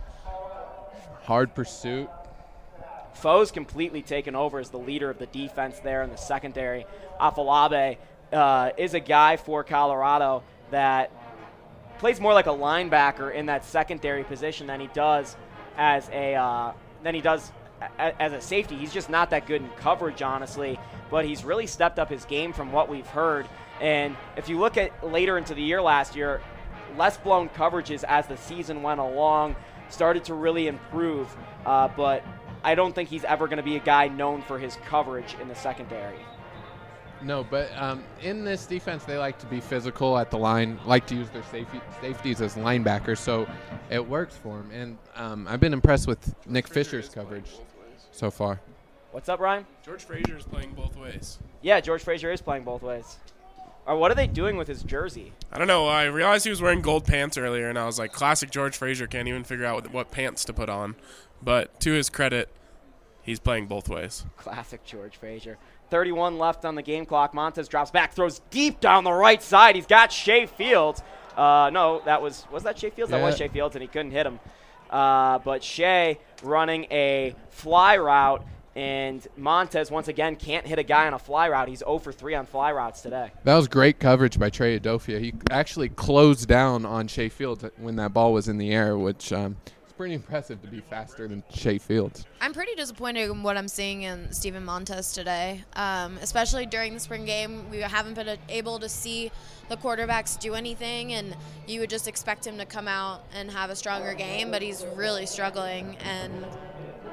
Hard pursuit. Foe's completely taken over as the leader of the defense there in the secondary. Afolabi uh, is a guy for Colorado that plays more like a linebacker in that secondary position than he does as a uh, than he does a, as a safety. He's just not that good in coverage, honestly, but he's really stepped up his game from what we've heard. And if you look at later into the year last year, less blown coverages as the season went along, started to really improve, uh, but I don't think he's ever going to be a guy known for his coverage in the secondary. No, but um, in this defense, they like to be physical at the line, like to use their safety, safeties as linebackers, so it works for him. And um, I've been impressed with Nick Fisher's coverage so far. What's up, Ryan? George Frazier is playing both ways. Yeah, George Frazier is playing both ways. Or what are they doing with his jersey? I don't know. I realized he was wearing gold pants earlier, and I was like, classic George Frazier, can't even figure out what, what pants to put on. But to his credit, he's playing both ways. Classic George Frazier. thirty-one left on the game clock. Montez drops back, throws deep down the right side. He's got Shea Fields. Uh, no, that was was that Shea Fields? Yeah. That was Shea Fields, and he couldn't hit him. Uh, but Shea running a fly route, and Montez once again can't hit a guy on a fly route. He's zero for three on fly routes today. That was great coverage by Trey Udofia. He actually closed down on Shea Fields when that ball was in the air, which um, is pretty impressive to be faster than Shea Fields. I'm pretty disappointed in what I'm seeing in Steven Montez today, um, especially during the spring game. We haven't been able to see the quarterbacks do anything, and you would just expect him to come out and have a stronger game, but he's really struggling. And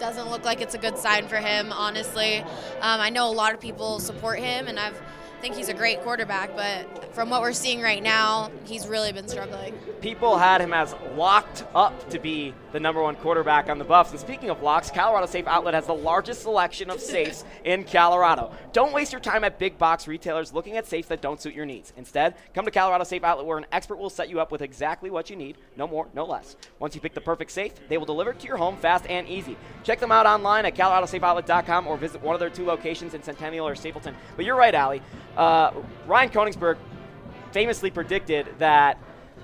doesn't look like it's a good sign for him, honestly. Um, I know a lot of people support him, and I've think he's a great quarterback, but from what we're seeing right now, he's really been struggling. People had him as locked up to be the number one quarterback on the Buffs. And speaking of locks, Colorado Safe Outlet has the largest selection of safes in Colorado. Don't waste your time at big box retailers looking at safes that don't suit your needs. Instead, come to Colorado Safe Outlet where an expert will set you up with exactly what you need, no more, no less. Once you pick the perfect safe, they will deliver it to your home fast and easy. Check them out online at colorado safe outlet dot com or visit one of their two locations in Centennial or Stapleton. But you're right, Allie. Uh, Ryan Koenigsberg famously predicted that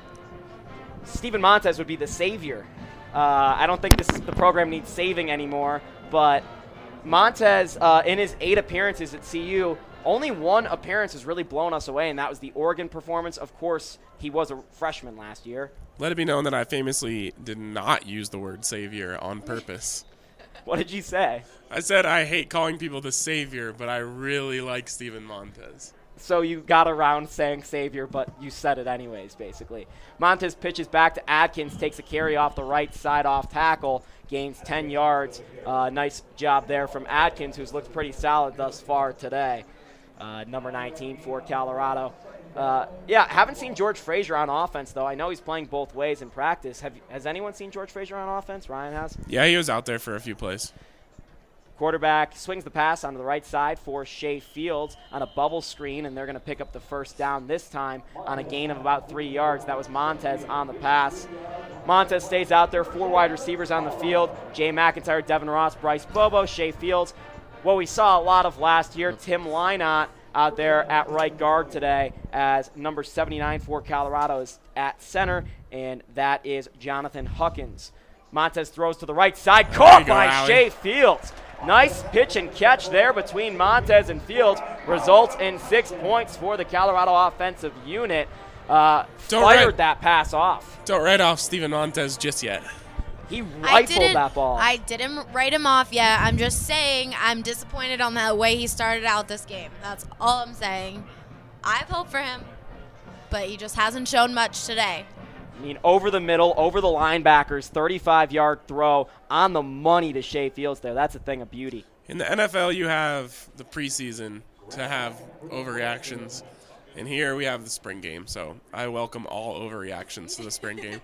Steven Montez would be the savior. Uh, I don't think this the program needs saving anymore, but Montez, uh, in his eight appearances at C U, only one appearance has really blown us away, and that was the Oregon performance. Of course, he was a freshman last year. Let it be known that I famously did not use the word savior on purpose. What did you say? I said I hate calling people the savior, but I really like Steven Montez. So you got around saying savior, but you said it anyways, basically. Montez pitches back to Adkins, takes a carry off the right side off tackle, gains ten yards. Uh, nice job there from Adkins, who's looked pretty solid thus far today. Uh, number nineteen for Colorado. Uh, yeah, haven't seen George Frazier on offense, though. I know he's playing both ways in practice. Have Has anyone seen George Frazier on offense? Ryan has? Yeah, he was out there for a few plays. Quarterback swings the pass onto the right side for Shea Fields on a bubble screen, and they're going to pick up the first down this time on a gain of about three yards. That was Montez on the pass. Montez stays out there, four wide receivers on the field. Jay McIntyre, Devin Ross, Bryce Bobo, Shea Fields. What we saw a lot of last year, Tim Lynott out there at right guard today as number seventy-nine for Colorado is at center, and that is Jonathan Huckins. Montez throws to the right side, caught go, by Allie. Shea Fields. Nice pitch and catch there between Montez and Fields. Results in six points for the Colorado offensive unit. Uh, Don't fired write- that pass off. Don't write off Steven Montez just yet. He I rifled didn't, that ball. I didn't write him off yet. I'm just saying I'm disappointed on the way he started out this game. That's all I'm saying. I have hope for him, but he just hasn't shown much today. I mean, over the middle, over the linebackers, thirty-five-yard throw on the money to Shea Fields there. That's a thing of beauty. In the N F L, you have the preseason to have overreactions. And here we have the spring game. So I welcome all overreactions to the spring game.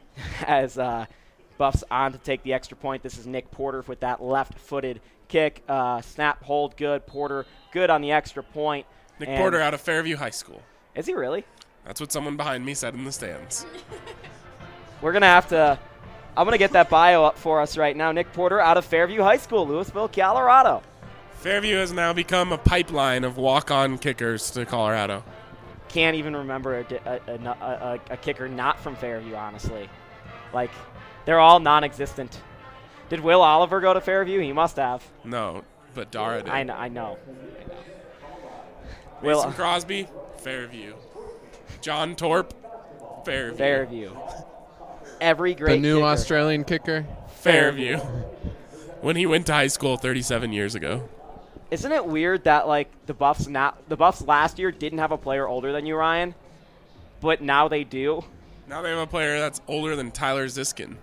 As uh, Buffs on to take the extra point. This is Nick Porter with that left-footed kick. Uh, snap, hold, good. Porter, good on the extra point. Nick And Porter out of Fairview High School. Is he really? That's what someone behind me said in the stands. We're going to have to – I'm going to get that bio up for us right now. Nick Porter out of Fairview High School, Louisville, Colorado. Fairview has now become a pipeline of walk-on kickers to Colorado. Can't even remember a, a, a, a, a kicker not from Fairview, honestly. Like, they're all non-existent. Did Will Oliver go to Fairview? He must have. No, but Dara did. I know. I know. Mason Will Crosby, Fairview. John Torp, Fairview. Fairview. Every great The new kicker. Australian kicker. Fairview. When he went to high school thirty-seven years ago. Isn't it weird that like the Buffs not the Buffs last year didn't have a player older than you, Ryan, but now they do? Now they have a player that's older than Tyler Ziskin.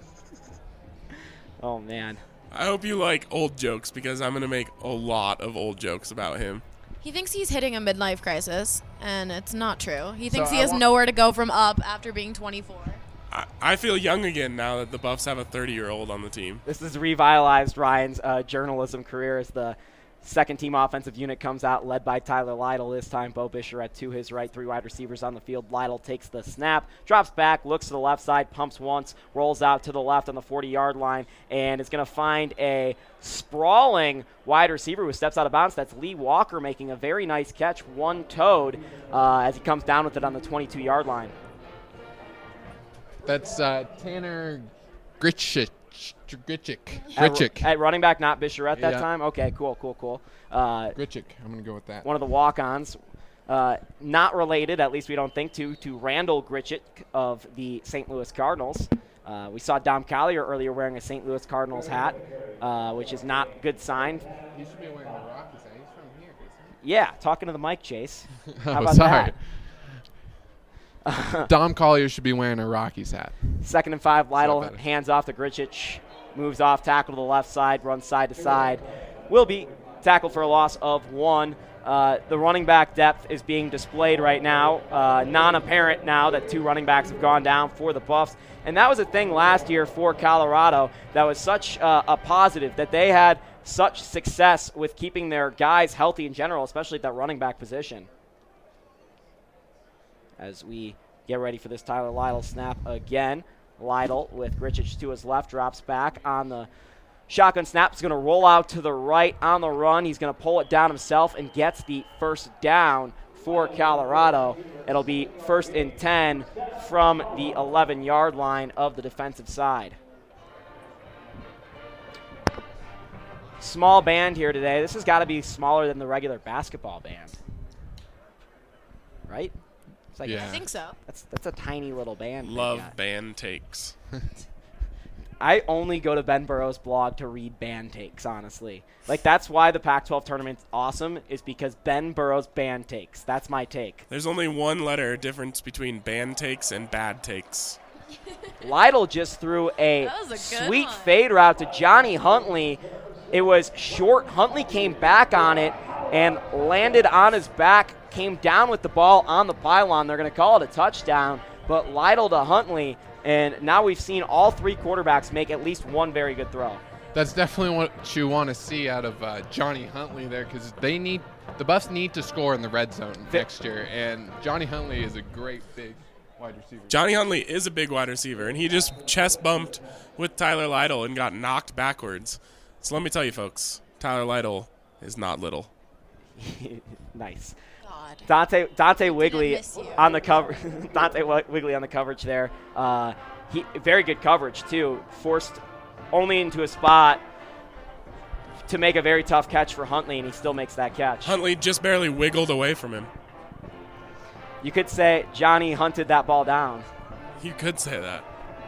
Oh man. I hope you like old jokes because I'm going to make a lot of old jokes about him. He thinks he's hitting a midlife crisis, and it's not true. He thinks So he I has want- nowhere to go from up after being twenty-four. I, I feel young again now that the Buffs have a thirty-year-old on the team. This has revitalized Ryan's uh, journalism career as the second team offensive unit comes out, led by Tyler Lytle this time. Bo Bicheret to his right, three wide receivers on the field. Lytle takes the snap, drops back, looks to the left side, pumps once, rolls out to the left on the forty-yard line, and is going to find a sprawling wide receiver who steps out of bounds. That's Lee Walker making a very nice catch, one-toed, uh, as he comes down with it on the twenty-two-yard line. That's uh, Tanner Gritchik. Gritchik. At, Gritchik. at running back, not Bicheret that Yeah. time? Okay, cool, cool, cool. Uh, Gritchik. I'm going to go with that. one of the walk-ons. Uh, not related, at least we don't think, to, to Randall Gritchik of the Saint Louis Cardinals. Uh, we saw Dom Collier earlier wearing a Saint Louis Cardinals hat, uh, which is not a good sign. He should be wearing a Rockies hat. He's from here, isn't Yeah, talking to the mic, Chase. he? How Oh, about sorry. that? Dom Collier should be wearing a Rockies hat. Second and five, Lytle better. hands off to Gritchik. moves off, tackle to the left side, runs side to side. Will be tackled for a loss of one. Uh, the running back depth is being displayed right now. Uh, non-apparent now that two running backs have gone down for the Buffs. And that was a thing last year for Colorado that was such uh, a positive, that they had such success with keeping their guys healthy in general, especially at that running back position. As we get ready for this Tyler Lytle snap again. Lytle with Grichich to his left, drops back on the shotgun snap. He's going to roll out to the right on the run. He's going to pull it down himself and gets the first down for Colorado. It'll be first and ten from the eleven-yard line of the defensive side. Small band here today. This has got to be smaller than the regular basketball band. Right? It's like Yeah. I think so. That's that's a tiny little band. they Love got. band takes. I only go to Ben Burrow's blog to read band takes, honestly. Like, that's why the Pac twelve tournament's awesome, is because Ben Burrow's band takes. That's my take. There's only one letter difference between band takes and bad takes. Lytle just threw a, That was a good sweet one. fade route to Johnny Huntley. It was short. Huntley came back on it and landed on his back, came down with the ball on the pylon. They're going to call it a touchdown, but Lytle to Huntley, and now we've seen all three quarterbacks make at least one very good throw. That's definitely what you want to see out of uh, Johnny Huntley there, because they need the Buffs need to score in the red zone The- next year, and Johnny Huntley is a great big wide receiver. Johnny Huntley is a big wide receiver, and he just chest bumped with Tyler Lytle and got knocked backwards. So let me tell you, folks, Tyler Lytle is not little. Nice. God. Dante Dante Wigley miss you. on the cover. Dante Wi- Wigley on the coverage there. Uh, he very good coverage too. Forced only into a spot to make a very tough catch for Huntley, and he still makes that catch. Huntley just barely wiggled away from him. You could say Johnny hunted that ball down. You could say that.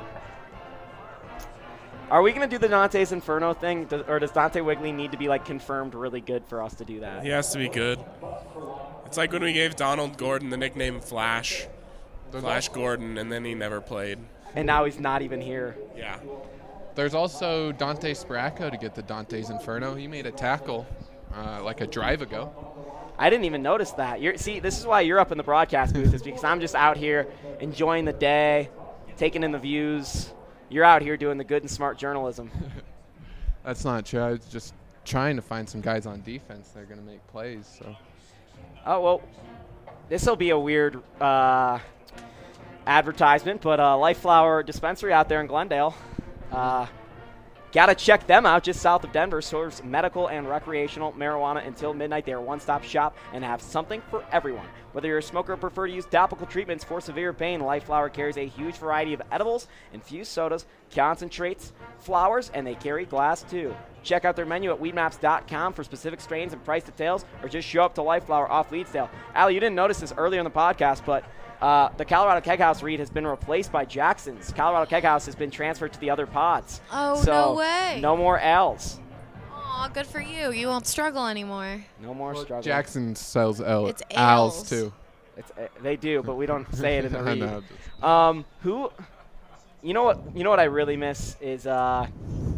Are we going to do the Dante's Inferno thing, Does, or does Dante Wigley need to be like confirmed really good for us to do that? He has to be good. It's like when we gave Donald Gordon the nickname Flash, Flash Gordon, and then he never played. And now he's not even here. Yeah. There's also Dante Spracco to get the Dante's Inferno. He made a tackle uh, like a drive ago. I didn't even notice that. You're, see, this is why you're up in the broadcast booth, is because I'm just out here enjoying the day, taking in the views. You're out here doing the good and smart journalism. That's not true. I was just trying to find some guys on defense that are going to make plays. So Oh, well, this will be a weird uh, advertisement, but uh, Life Flower Dispensary out there in Glendale. Uh, Got to check them out just south of Denver. Serves medical and recreational marijuana until midnight. They are a one-stop shop and have something for everyone. Whether you're a smoker or prefer to use topical treatments for severe pain, Life Flower carries a huge variety of edibles, infused sodas, concentrates, flowers, and they carry glass too. Check out their menu at weed maps dot com for specific strains and price details, or just show up to Life Flower off Leedsdale. Allie, you didn't notice this earlier in the podcast, but Uh, the Colorado Keg House read has been replaced by Jackson's. Colorado Keg House has been transferred to the other pods. Oh, so no way. No more L's. Aw, good for you. You won't struggle anymore. No more struggle. Jackson sells L- It's owls ales. too. It's, uh, they do, but we don't say it in the I read. know. Um, who? You know what? You know what I really miss is uh,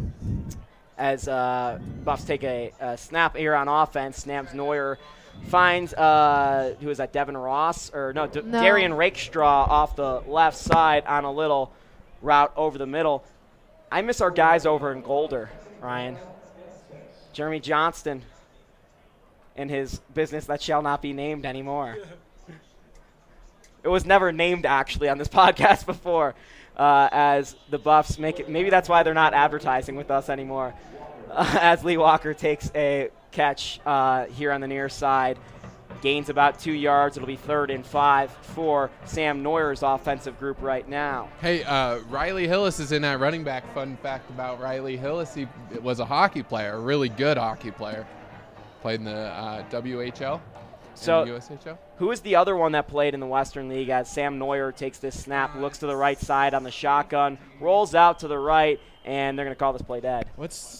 as uh, Buffs take a, a snap here on offense. Snams Neuer finds uh, who is that? Devin Ross or no? D- No. Darian Rakestraw off the left side on a little route over the middle. I miss our guys over in Golder, Ryan. Jeremy Johnston and his business that shall not be named anymore. It was never named actually on this podcast before, uh, as the Buffs make it. Maybe that's why they're not advertising with us anymore. Uh, as Lee Walker takes a catch uh, here on the near side, gains about two yards. It'll be third and five for Sam Neuer's offensive group right now. Hey, uh, Riley Hillis is in that running back. Fun fact about Riley Hillis: he was a hockey player, a really good hockey player. Played in the uh, W H L So- and the U S H L. Who is the other one that played in the Western League as Sam Neuer takes this snap, looks to the right side on the shotgun, rolls out to the right, and they're going to call this play dead. What's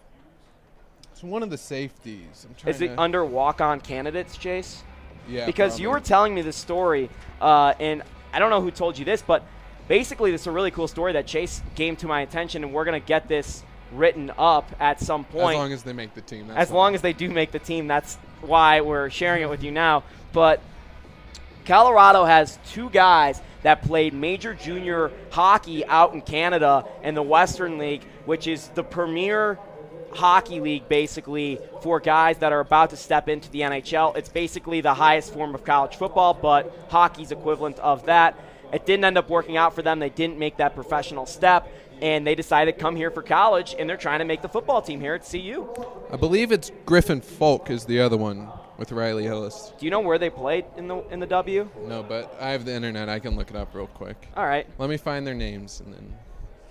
it's one of the safeties? I'm trying Is it to, under walk-on candidates, Chase? yeah, Because you were probably. telling me this story, uh, and I don't know who told you this, but basically this is a really cool story that Chase came to my attention, and we're going to get this written up at some point. As long as they make the team. That's As fine. long as they do make the team, that's why we're sharing it with you now. But Colorado has two guys that played major junior hockey out in Canada in the Western League, which is the premier hockey league basically for guys that are about to step into the N H L. It's basically the highest form of college football, but hockey's equivalent of that. It didn't end up working out for them. They didn't make that professional step, and they decided to come here for college, and they're trying to make the football team here at C U. I believe it's Griffin Folk is the other one with Riley Hillis. Do you know where they played in the in the W? No, but I have the internet. I can look it up real quick. All right. Let me find their names and then.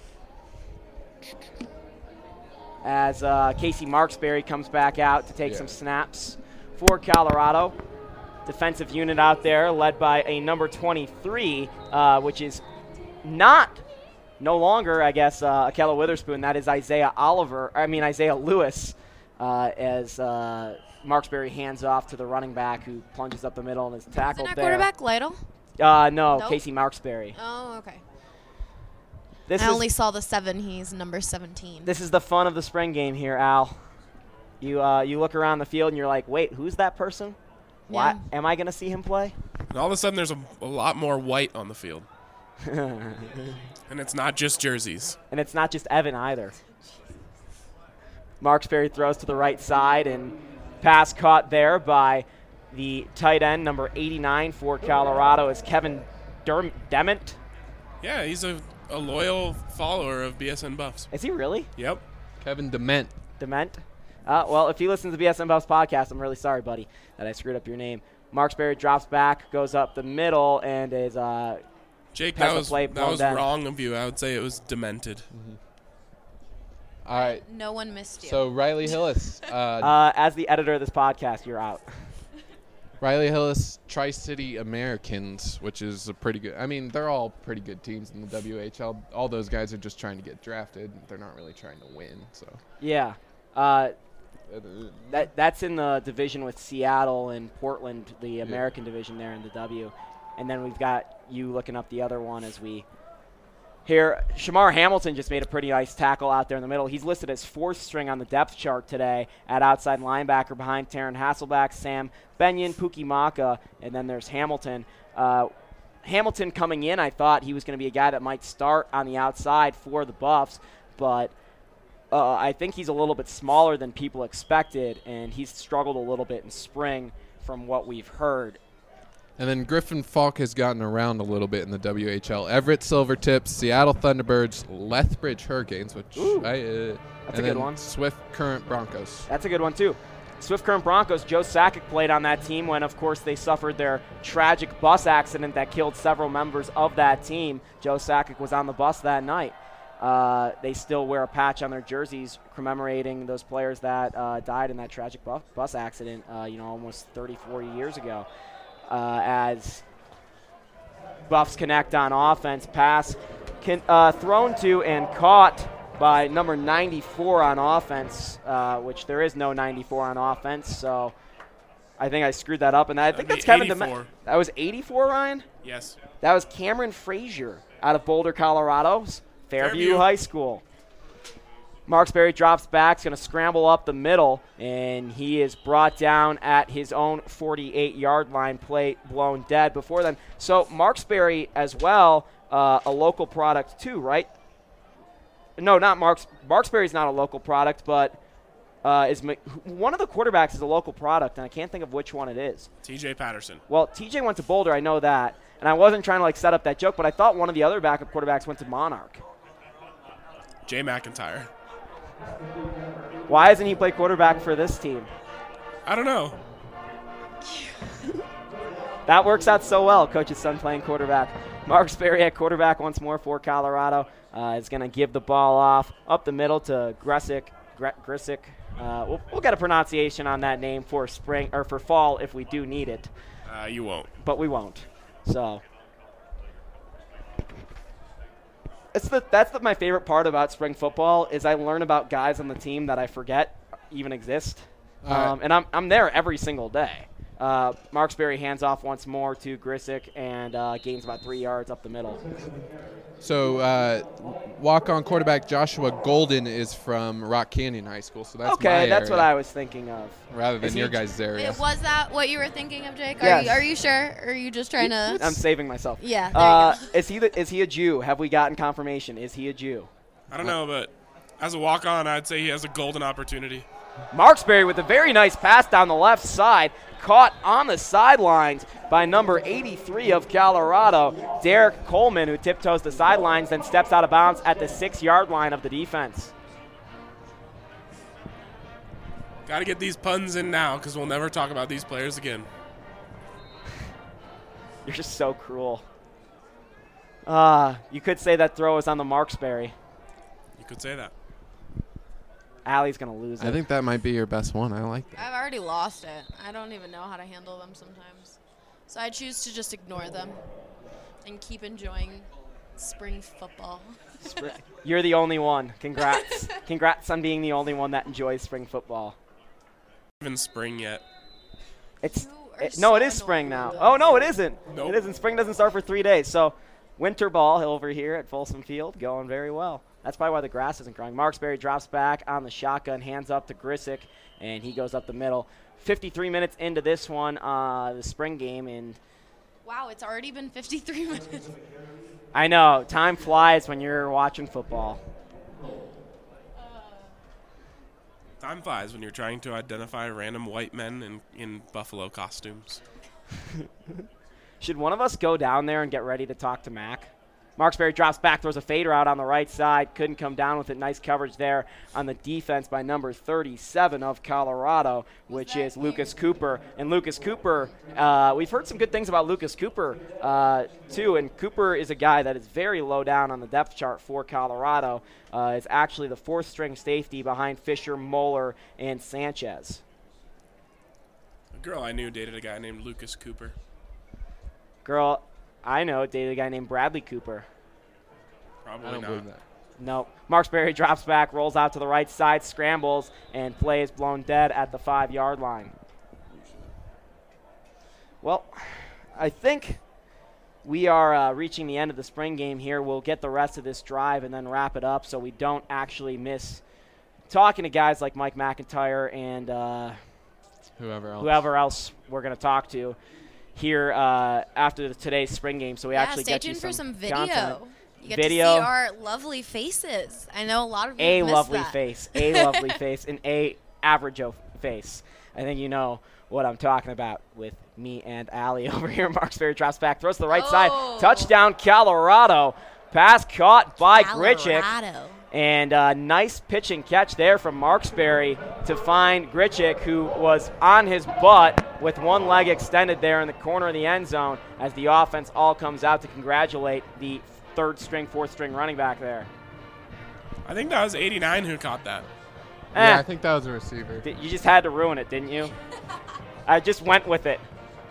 As uh, Casey Marksberry comes back out to take Yeah. some snaps for Colorado. Defensive unit out there led by a number twenty-three, uh, which is not, no longer, I guess, uh, Akella Witherspoon. That is Isaiah Oliver, I mean Isaiah Lewis, uh, as uh, Marksberry hands off to the running back who plunges up the middle and is tackled Isn't that there. quarterback Lytle? Uh, no, Nope. Casey Marksberry. Oh, okay. This I is, only saw the seven. He's number seventeen. This is the fun of the spring game here, Al. You uh, you look around the field and you're like, wait, who's that person? Why Yeah. am I going to see him play? And all of a sudden, there's a, a lot more white on the field. And it's not just jerseys. And it's not just Evan either. Marksberry throws to the right side and pass caught there by the tight end, number eighty-nine for Colorado, is Kevin Derm- Dement. Yeah, he's a, a loyal follower of B S N Buffs. Is he really? Yep. Kevin Dement. Dement? Uh, well, if you listen to the B S N Buffs podcast, I'm really sorry, buddy, that I screwed up your name. Marksberry drops back, goes up the middle, and is uh, Jake, Pass that the was, play, that blown was down. wrong of you. I would say it was demented. All right. No one missed you. So Riley Hillis. Uh, uh, as the editor of this podcast, you're out. Riley Hillis, Tri-City Americans, which is a pretty good. I mean, they're all pretty good teams in the W H L. All those guys are just trying to get drafted. They're not really trying to win. So Yeah. Uh, that That's in the division with Seattle and Portland, the American division there in the W. And then we've got you looking up the other one as we here. Shamar Hamilton just made a pretty nice tackle out there in the middle. He's listed as fourth string on the depth chart today at outside linebacker behind Taryn Hasselback, Sam Benyon, Pookie Maka, and then there's Hamilton. Uh, Hamilton coming in, I thought he was going to be a guy that might start on the outside for the Buffs, but uh, I think he's a little bit smaller than people expected, and he's struggled a little bit in spring from what we've heard. And then Griffin Falk has gotten around a little bit in the W H L. Everett Silvertips, Seattle Thunderbirds, Lethbridge Hurricanes, which Ooh, I, uh, that's and a good then one. Swift Current Broncos. That's a good one, too. Swift Current Broncos, Joe Sakic played on that team when, of course, they suffered their tragic bus accident that killed several members of that team. Joe Sakic was on the bus that night. Uh, they still wear a patch on their jerseys commemorating those players that uh, died in that tragic bu- bus accident, uh, you know, almost thirty, forty years ago. Uh, as Buffs connect on offense, pass can, uh, thrown to and caught by number ninety-four on offense, uh, which there is no ninety-four on offense, so I think I screwed that up. And I think That'd that's be Kevin eighty-four. Dement. That was eighty-four, Ryan? Yes. That was Cameron Frazier out of Boulder, Colorado, Fairview, Fairview. High School. Marksberry drops back, is going to scramble up the middle, and he is brought down at his own forty-eight-yard line, plate blown dead before then. So Marksberry as well, uh, a local product too, right? No, not Marks. Marksberry's not a local product, but uh, is Mc- one of the quarterbacks is a local product, and I can't think of which one it is. T J Patterson. Well, T J went to Boulder, I know that, and I wasn't trying to like set up that joke, but I thought one of the other backup quarterbacks went to Monarch. Jay McIntyre. Why doesn't he play quarterback for this team? I don't know. That works out so well, coach's son playing quarterback. Marksberry at quarterback once more for Colorado. Uh, is going to give the ball off up the middle to Grisick. Gre- Grisick. Uh, we'll, we'll get a pronunciation on that name for spring or for fall if we do need it, Uh, you won't. but we won't. So it's the that's the, my favorite part about spring football is I learn about guys on the team that I forget even exist, All right. um, and I'm I'm there every single day. Uh, Marksberry hands off once more to Grisick and uh, gains about three yards up the middle. So uh, walk-on quarterback Joshua Golden is from Rock Canyon High School, so that's okay, my that's area, what I was thinking of. rather than Is he- your guys' area. It- Was that what you were thinking of, Jake? Are, Yes. you, are you sure? Or are you just trying to? I'm saving myself. Yeah, there Uh, you go. is he the, is he a Jew? Have we gotten confirmation? Is he a Jew? I don't know, but as a walk-on, I'd say he has a golden opportunity. Marksberry with a very nice pass down the left side, caught on the sidelines by number eighty-three of Colorado, Derek Coleman, who tiptoes the sidelines, then steps out of bounds at the six-yard line of the defense. Got to get these puns in now because we'll never talk about these players again. You're just so cruel. Uh, you could say that throw is on the Marksberry. You could say that. Allie's going to lose it. I think that might be your best one. I like that. I've already lost it. I don't even know how to handle them sometimes. So I choose to just ignore them and keep enjoying spring football. Spr- You're the only one. Congrats. Congrats on being the only one that enjoys spring football. Even spring yet. It's You are it- no, so it is spring now. annoying. Oh no, it isn't. Nope. It isn't. Spring doesn't start for three days. So, winter ball over here at Folsom Field going very well. That's probably why the grass isn't growing. Marksberry drops back on the shotgun, hands up to Grisick, and he goes up the middle. fifty-three minutes into this one, uh, the spring game, and Wow, it's already been fifty-three minutes. I know time flies when you're watching football. Time flies when you're trying to identify random white men in, in buffalo costumes. Should one of us go down there and get ready to talk to Mac? Marksberry drops back, throws a fader out on the right side. Couldn't come down with it. Nice coverage there on the defense by number thirty-seven of Colorado, which is Lucas Cooper. And Lucas Cooper, uh, we've heard some good things about Lucas Cooper, uh, too. And Cooper is a guy that is very low down on the depth chart for Colorado. Uh, is actually the fourth-string safety behind Fisher, Moeller, and Sanchez. A girl I knew dated a guy named Lucas Cooper. Girl, I know, dated a guy named Bradley Cooper. Probably I don't not. believe that. Nope. Marksberry drops back, rolls out to the right side, scrambles, and play is blown dead at the five-yard line. Well, I think we are uh, reaching the end of the spring game here. We'll get the rest of this drive and then wrap it up so we don't actually miss talking to guys like Mike McIntyre and uh, Whoever else. whoever else we're going to talk to here uh, after the, today's spring game. So we Yeah, actually stay get you tuned for some some video. content. You get Video. to see our lovely faces. I know a lot of you A missed lovely that. face, a lovely face, and a average o- face. I think you know what I'm talking about with me and Allie over here. Marksberry drops back, throws to the right Oh. side. Touchdown, Colorado. Pass caught by Gritchick. Colorado. And uh, nice pitch and catch there from Marksberry to find Gritchick, who was on his butt with one leg extended there in the corner of the end zone as the offense all comes out to congratulate the third string, fourth string running back there. I think that was eighty-nine who caught that. Yeah, Eh. I think that was a receiver. Th- You just had to ruin it, didn't you? I just went with it.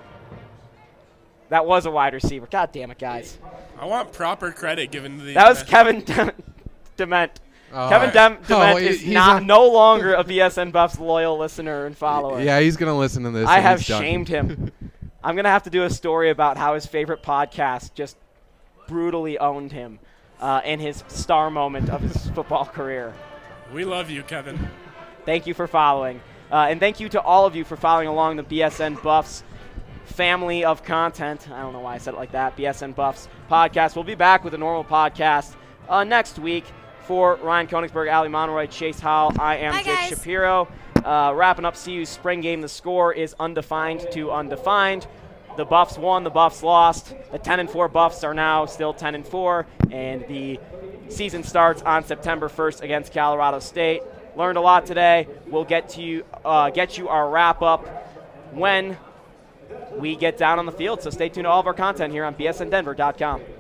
That was a wide receiver. God damn it, guys. I want proper credit given to the. That was Kevin Dem- Dement. Oh, Kevin Dem- oh, Dement he- is he's not, on- no longer a B S N Buffs loyal listener and follower. Yeah, he's going to listen to this. I and have he's done. shamed him. I'm going to have to do a story about how his favorite podcast just brutally owned him uh, in his star moment of his football career. We love you, Kevin. Thank you for following. Uh, and thank you to all of you for following along the B S N Buffs family of content. I don't know why I said it like that. B S N Buffs podcast. We'll be back with a normal podcast uh, next week. For Ryan Koenigsberg, Ali Monroy, Chase Howell, I am Bye, Jake guys. Shapiro. Uh, wrapping up C U's spring game. The score is undefined to undefined. The Buffs won, the Buffs lost. The ten and four Buffs are now still ten and four, and the season starts on September first against Colorado State. Learned a lot today. We'll get to you, uh, get you our wrap up when we get down on the field. So stay tuned to all of our content here on B S N Denver dot com.